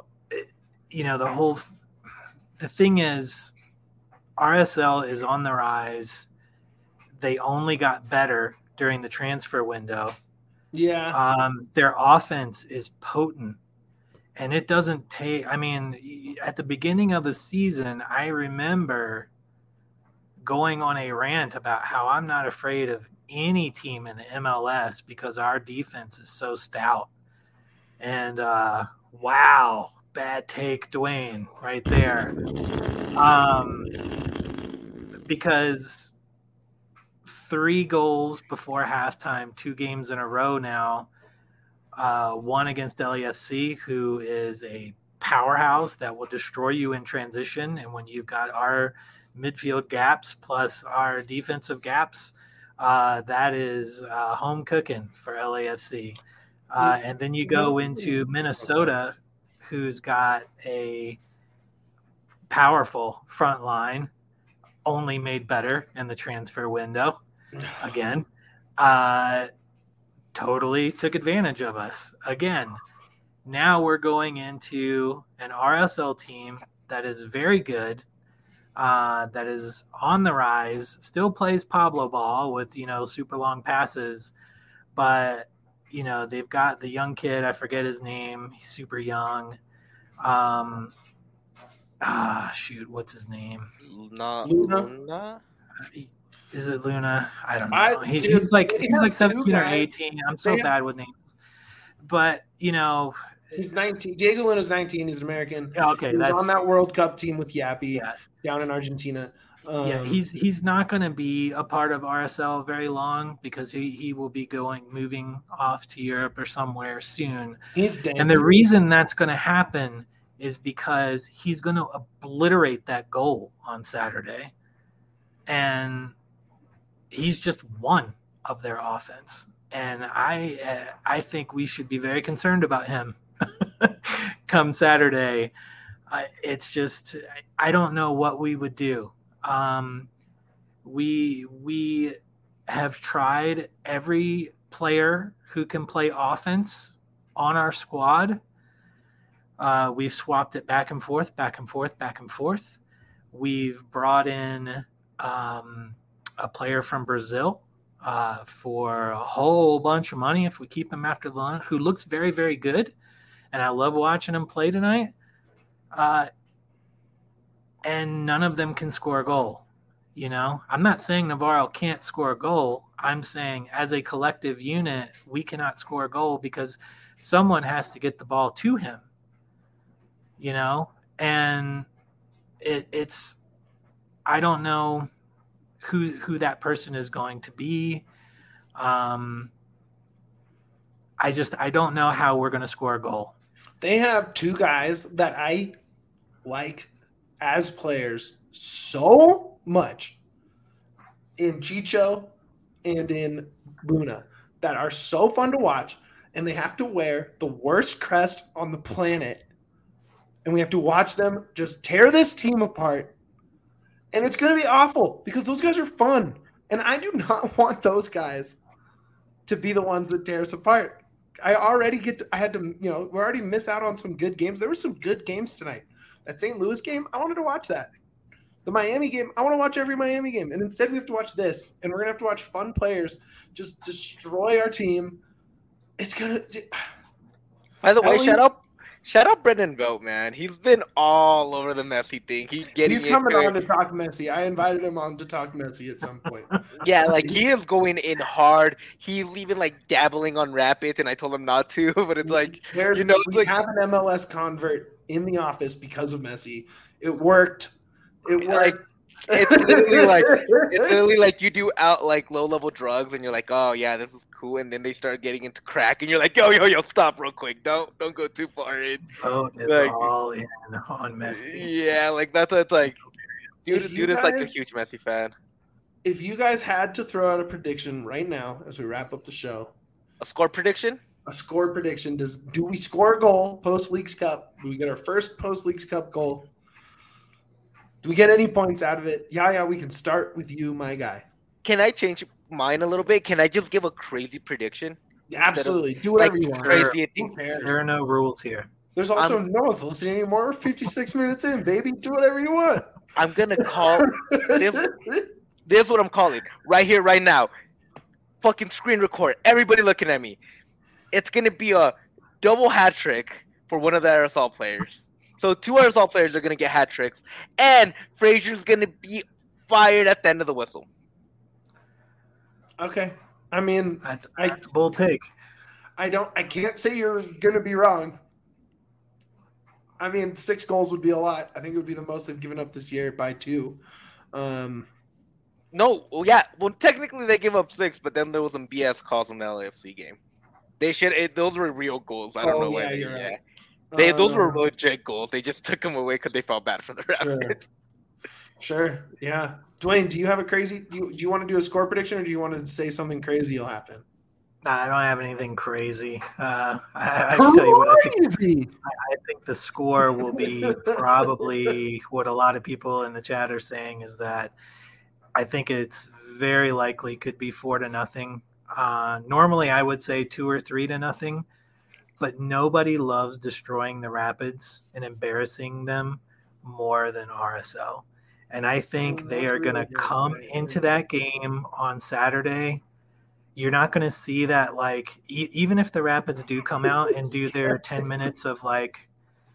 the thing is, RSL is on the rise. They only got better during the transfer window. Yeah. Their offense is potent. And it doesn't take, at the beginning of the season, I remember going on a rant about how I'm not afraid of any team in the MLS because our defense is so stout. And wow, bad take, Dwayne, right there. Because 3 goals before halftime, 2 games in a row now. One against LAFC, who is a powerhouse that will destroy you in transition. And when you've got our midfield gaps plus our defensive gaps, that is home cooking for LAFC. And then you go into Minnesota, who's got a powerful front line, only made better in the transfer window. Again, totally took advantage of us. Again, now we're going into an RSL team that is very good, that is on the rise, still plays Pablo ball with, super long passes. But, they've got the young kid, I forget his name. He's super young. What's his name? Luna? Is it Luna? I don't know. He's like 17 or 18. I'm so bad with names. But, he's 19. Diego Luna's 19. He's American. Okay, he's on that World Cup team with Yappy down in Argentina. He's not going to be a part of RSL very long because he will be moving off to Europe or somewhere soon. He's dangerous. And the reason that's going to happen is because he's going to obliterate that goal on Saturday. And he's just one of their offense. And I think we should be very concerned about him come Saturday. It's just, I don't know what we would do. We have tried every player who can play offense on our squad. We've swapped it back and forth, back and forth, back and forth. We've brought in a player from Brazil for a whole bunch of money if we keep him after the loan, who looks very, very good. And I love watching him play tonight. And none of them can score a goal. I'm not saying Navarro can't score a goal. I'm saying as a collective unit, we cannot score a goal because someone has to get the ball to him, and it's, I don't know who that person is going to be. I don't know how we're going to score a goal. They have 2 guys that I like as players so much in Chicho and in Luna that are so fun to watch, and they have to wear the worst crest on the planet, and we have to watch them just tear this team apart. And it's going to be awful because those guys are fun. And I do not want those guys to be the ones that tear us apart. We already miss out on some good games. There were some good games tonight. That St. Louis game, I wanted to watch that. the Miami game. I want to watch every Miami game. And instead we have to watch this. And we're going to have to watch fun players just destroy our team. It's going to... By the way, shout out Brendan Vogt, man. He's been all over the Messi thing. He's coming on to talk Messi. I invited him on to talk Messi at some point. Yeah, like he is going in hard. He's even like dabbling on Rapids, and I told him not to. But it's like we have an MLS convert in the office because of Messi. It worked. Like it's literally like you do out like low level drugs, and you're like, oh yeah, this is cool, and then they start getting into crack, and you're like, yo, stop real quick, don't go too far in. Oh, it's like, all in on Messi. Yeah, like that's what it's like. Dude is like a huge Messi fan. If you guys had to throw out a prediction right now as we wrap up the show, a score prediction. Do we score a goal post Leagues Cup? Do we get our first post Leagues Cup goal? Do we get any points out of it? Yeah, we can start with you, my guy. Can I change mine a little bit? Can I just give a crazy prediction? Yeah, absolutely. Do whatever you want. Crazy. There are no rules here. There's also no one's listening anymore. We're 56 minutes in, baby. Do whatever you want. I'm going to call this. This is what I'm calling. Right here, right now. Fucking screen record. Everybody looking at me. It's going to be a double hat trick for one of the RSL players. So 2 RSL players are going to get hat tricks, and Frazier's going to be fired at the end of the whistle. Okay. I mean, that's a bold take. I can't say you're going to be wrong. I mean, 6 goals would be a lot. I think it would be the most they've given up this year by 2. No, well, yeah. Well, technically they give up 6, but then there was some BS calls in the LAFC game. Those were real goals. I don't know why. You're right. Those were legit goals. They just took them away because they felt bad for the Rapids. Sure. Yeah. Dwayne, do you have a crazy? Do you want to do a score prediction, or do you want to say something crazy will happen? I don't have anything crazy. I can tell you what I think. I think the score will be probably what a lot of people in the chat are saying is that I think it's very likely could be 4-0. Normally, I would say 2 or 3-0. But nobody loves destroying the Rapids and embarrassing them more than RSL. And I think they are going to come into that game on Saturday. You're not going to see that, like, even if the Rapids do come out and do their 10 minutes of, like,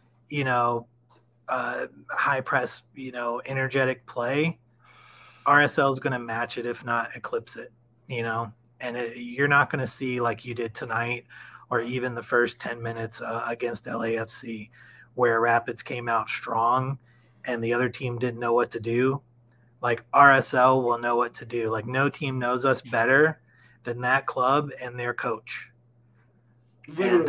high press, energetic play, RSL is going to match it, if not eclipse it, and you're not going to see like you did tonight or even the first 10 minutes against LAFC where Rapids came out strong and the other team didn't know what to do. Like RSL will know what to do. Like no team knows us better than that club and their coach. And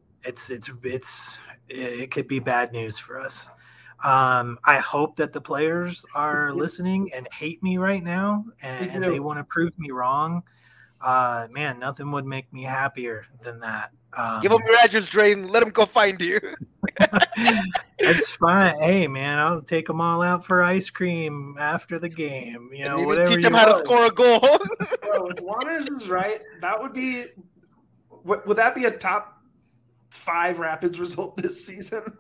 it could be bad news for us. I hope that the players are listening and hate me right now and they want to prove me wrong. Man, nothing would make me happier than that. Give them your address, Drain. Let them go find you. It's fine. Hey, man, I'll take them all out for ice cream after the game. Whatever. Teach them how to score a goal. Bro, if Waters is right, that would be. Would that be a top 5 Rapids result this season?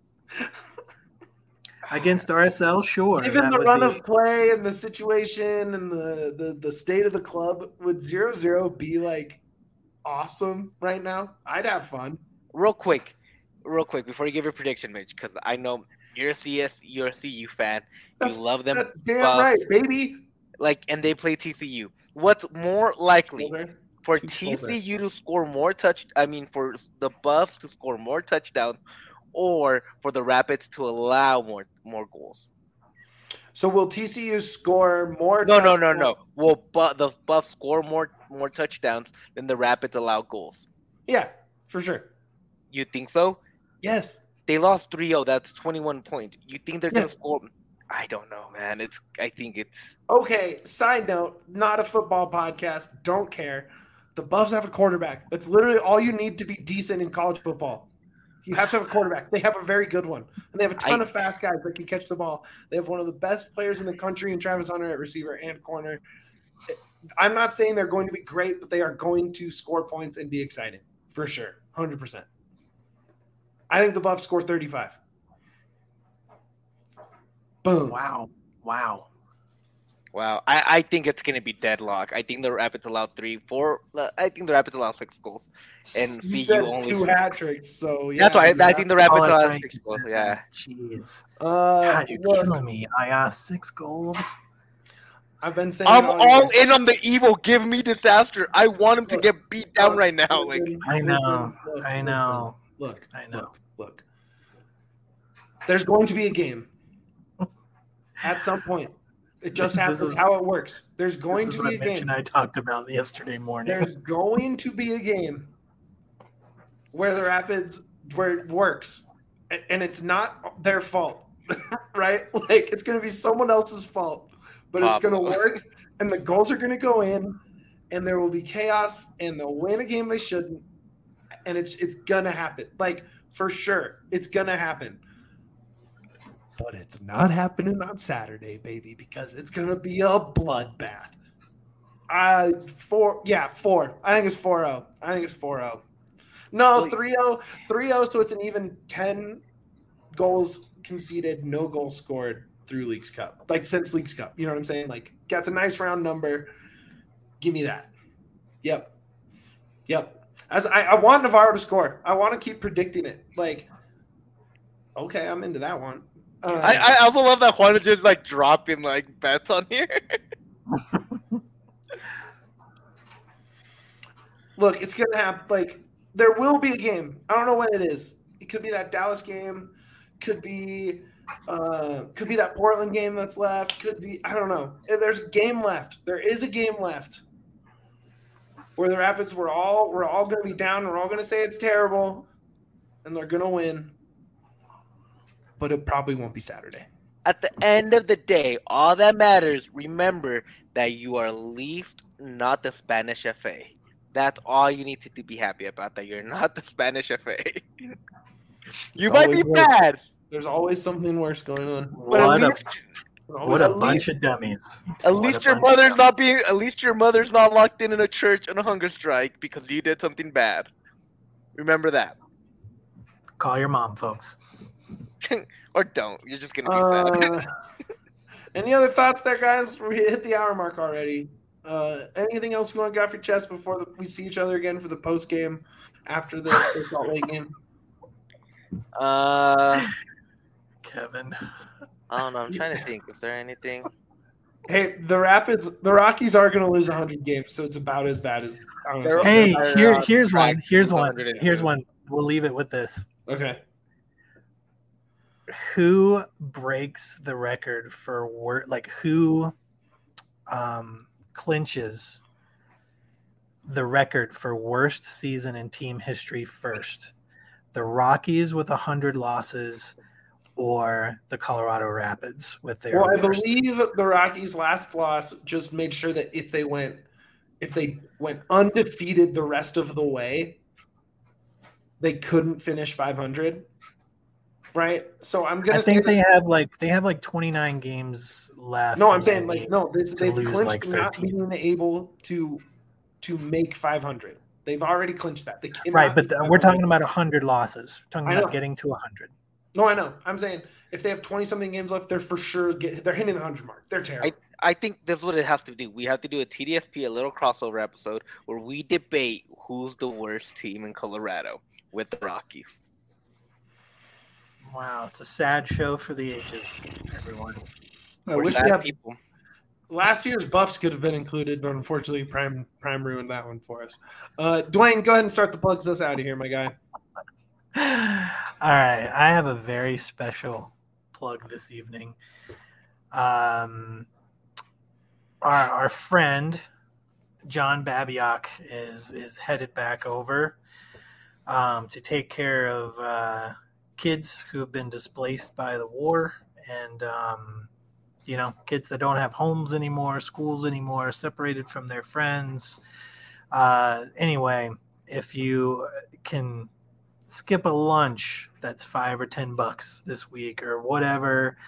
Against RSL, sure. Given the run of play and the situation and the state of the club, would 0-0 be like awesome right now? I'd have fun. Real quick, before you give your prediction, Mitch, because I know you're a CU fan. You love them. That's damn right, baby. Like, and they play TCU. What's more likely for TCU to score more for the Buffs to score more touchdowns, or for the Rapids to allow more goals? So will TCU score more? No. Will the Buffs score more touchdowns than the Rapids allow goals? Yeah, for sure. You think so? Yes. They lost 3-0. That's 21 points. You think they're going to score? I don't know, man. I think it's... Okay, side note, not a football podcast. Don't care. The Buffs have a quarterback. That's literally all you need to be decent in college football. You have to have a quarterback. They have a very good one. And they have a ton of fast guys that can catch the ball. They have one of the best players in the country in Travis Hunter at receiver and corner. I'm not saying they're going to be great, but they are going to score points and be exciting. For sure. 100%. I think the Buffs score 35. Boom. Wow. Wow. Wow, I think it's gonna be deadlock. I think the Rapids allow 3, 4. I think the Rapids allow 6 goals, and You CU said only 2 6. hat tricks, so yeah. That's why I think the Rapids Oh, that's allow right. 6 goals. Yeah, Jeez. God, you're Look, killing me. I got 6 goals. I've been saying I'm it all in on the evil. Give me disaster. I want him to Look, get beat down right now. listen, I know. look, I know. Look, I know. Look. There's going to be a game at some point. It just happens how it works. There's going to be a game. I talked about yesterday morning. There's going to be a game where the Rapids, where it works, and it's not their fault, right? Like, it's going to be someone else's fault, but it's going to work, and the goals are going to go in, and there will be chaos, and they'll win a game they shouldn't, and it's going to happen. Like, for sure, it's going to happen. But it's not happening on Saturday, baby, because it's going to be a bloodbath. 4. I think it's 4-0. No, 3-0. 3-0, so it's an even 10 goals conceded, no goals scored through Leagues Cup. Like, since Leagues Cup. You know what I'm saying? Like, that's a nice round number. Give me that. Yep. As I want Navarro to score. I want to keep predicting it. Like, okay, I'm into that one. I also love that Juan is just like dropping like bets on here. Look, it's gonna happen. Like, there will be a game. I don't know when it is. It could be that Dallas game. Could be that Portland game that's left. Could be, I don't know. There's a game left. There is a game left where the Rapids we're all gonna be down. We're all gonna say it's terrible, and they're gonna win. But it probably won't be Saturday. At the end of the day, all that matters, remember that you are Leafs, not the Spanish FA. That's all you need to be happy about, that you're not the Spanish FA. You might be bad. There's always something worse going on. But what a bunch of dummies. At least your mother's not locked in a church on a hunger strike because you did something bad. Remember that. Call your mom, folks. Or don't. You're just gonna be sad. Any other thoughts there, guys? We hit the hour mark already. Anything else you want to get off your chest before we see each other again for the post game after the Salt Lake game? Kevin. I don't know. I'm trying to think. Is there anything? Hey, the Rockies are going to lose 100 games, so it's about as bad as. Hey, here's one. Here's one. We'll leave it with this. Okay. Who breaks the record for who clinches the record for worst season in team history first? The Rockies with 100 losses or the Colorado Rapids with their I believe the Rockies' last loss just made sure that if they went undefeated the rest of the way, they couldn't finish 500. Right, so I'm gonna. I think they have like 29 games left. No, I'm saying they've clinched like not being able to make 500. They've already clinched that. They right, but we're talking about 100 losses. We're talking about getting to 100. No, I know. I'm saying if they have 20-something games left, they're for sure they're hitting the 100 mark. They're terrible. I think that's what it has to do. We have to do a TDSP, a little crossover episode where we debate who's the worst team in Colorado with the Rockies. Wow, it's a sad show for the ages, everyone. I wish we had people. Last year's Buffs could have been included, but unfortunately, Prime ruined that one for us. Dwayne, go ahead and start the plugs us out of here, my guy. All right, I have a very special plug this evening. Our friend John Babiock is headed back over to take care of kids who have been displaced by the war and kids that don't have homes anymore, schools anymore, separated from their friends. Anyway, if you can skip a lunch that's $5 or $10 this week or whatever,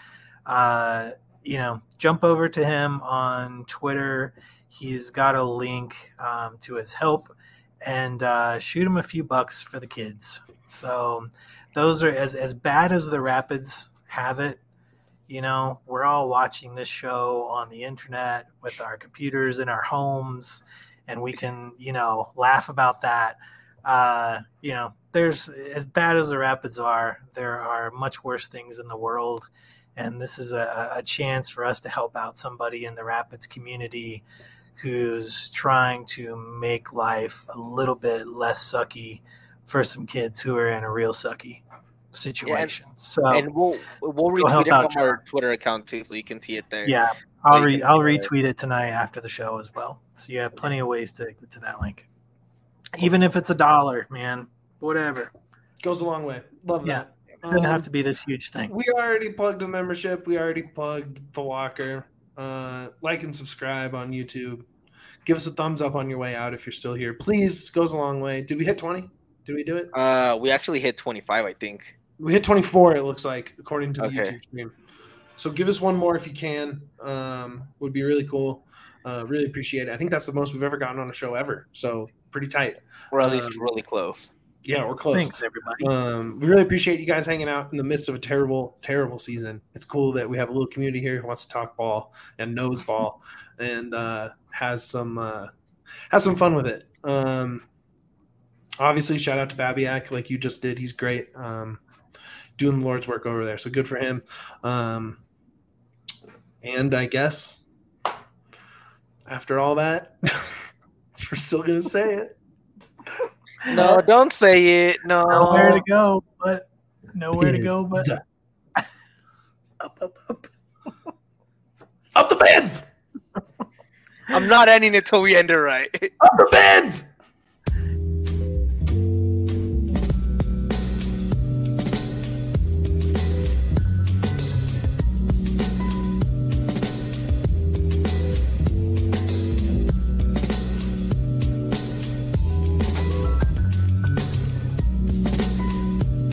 jump over to him on Twitter. He's got a link to his help, and shoot him a few bucks for the kids. So those are as bad as the Rapids have it. You know, we're all watching this show on the internet with our computers in our homes, and we can, you know, laugh about that. You know, there's, as bad as the Rapids are, there are much worse things in the world. And this is a chance for us to help out somebody in the Rapids community who's trying to make life a little bit less sucky for some kids who are in a real sucky situation. And we'll retweet it from our Twitter account too, so you can see it there. Yeah, I'll retweet it tonight after the show as well. So you have plenty of ways to get to that link. Even if it's $1, man, whatever. Goes a long way. Love that. It doesn't have to be this huge thing. We already plugged the membership. We already plugged the locker. Like and subscribe on YouTube. Give us a thumbs up on your way out if you're still here. Please, goes a long way. Did we hit 20? Did we do it? We actually hit 25, I think. We hit 24, it looks like, according to the YouTube stream. So give us one more if you can. Would be really cool. Really appreciate it. I think that's the most we've ever gotten on a show ever. So pretty tight. We're at least really close. Yeah, we're close. Thanks, everybody. We really appreciate you guys hanging out in the midst of a terrible, terrible season. It's cool that we have a little community here who wants to talk ball and knows ball and has some fun with it. Obviously, shout out to Babiak like you just did. He's great. Doing the Lord's work over there. So good for him. And I guess after all that, we're still going to say it. No, don't say it. No. Nowhere to go, but up. Up the bands! I'm not ending it till we end it right. Up the bands!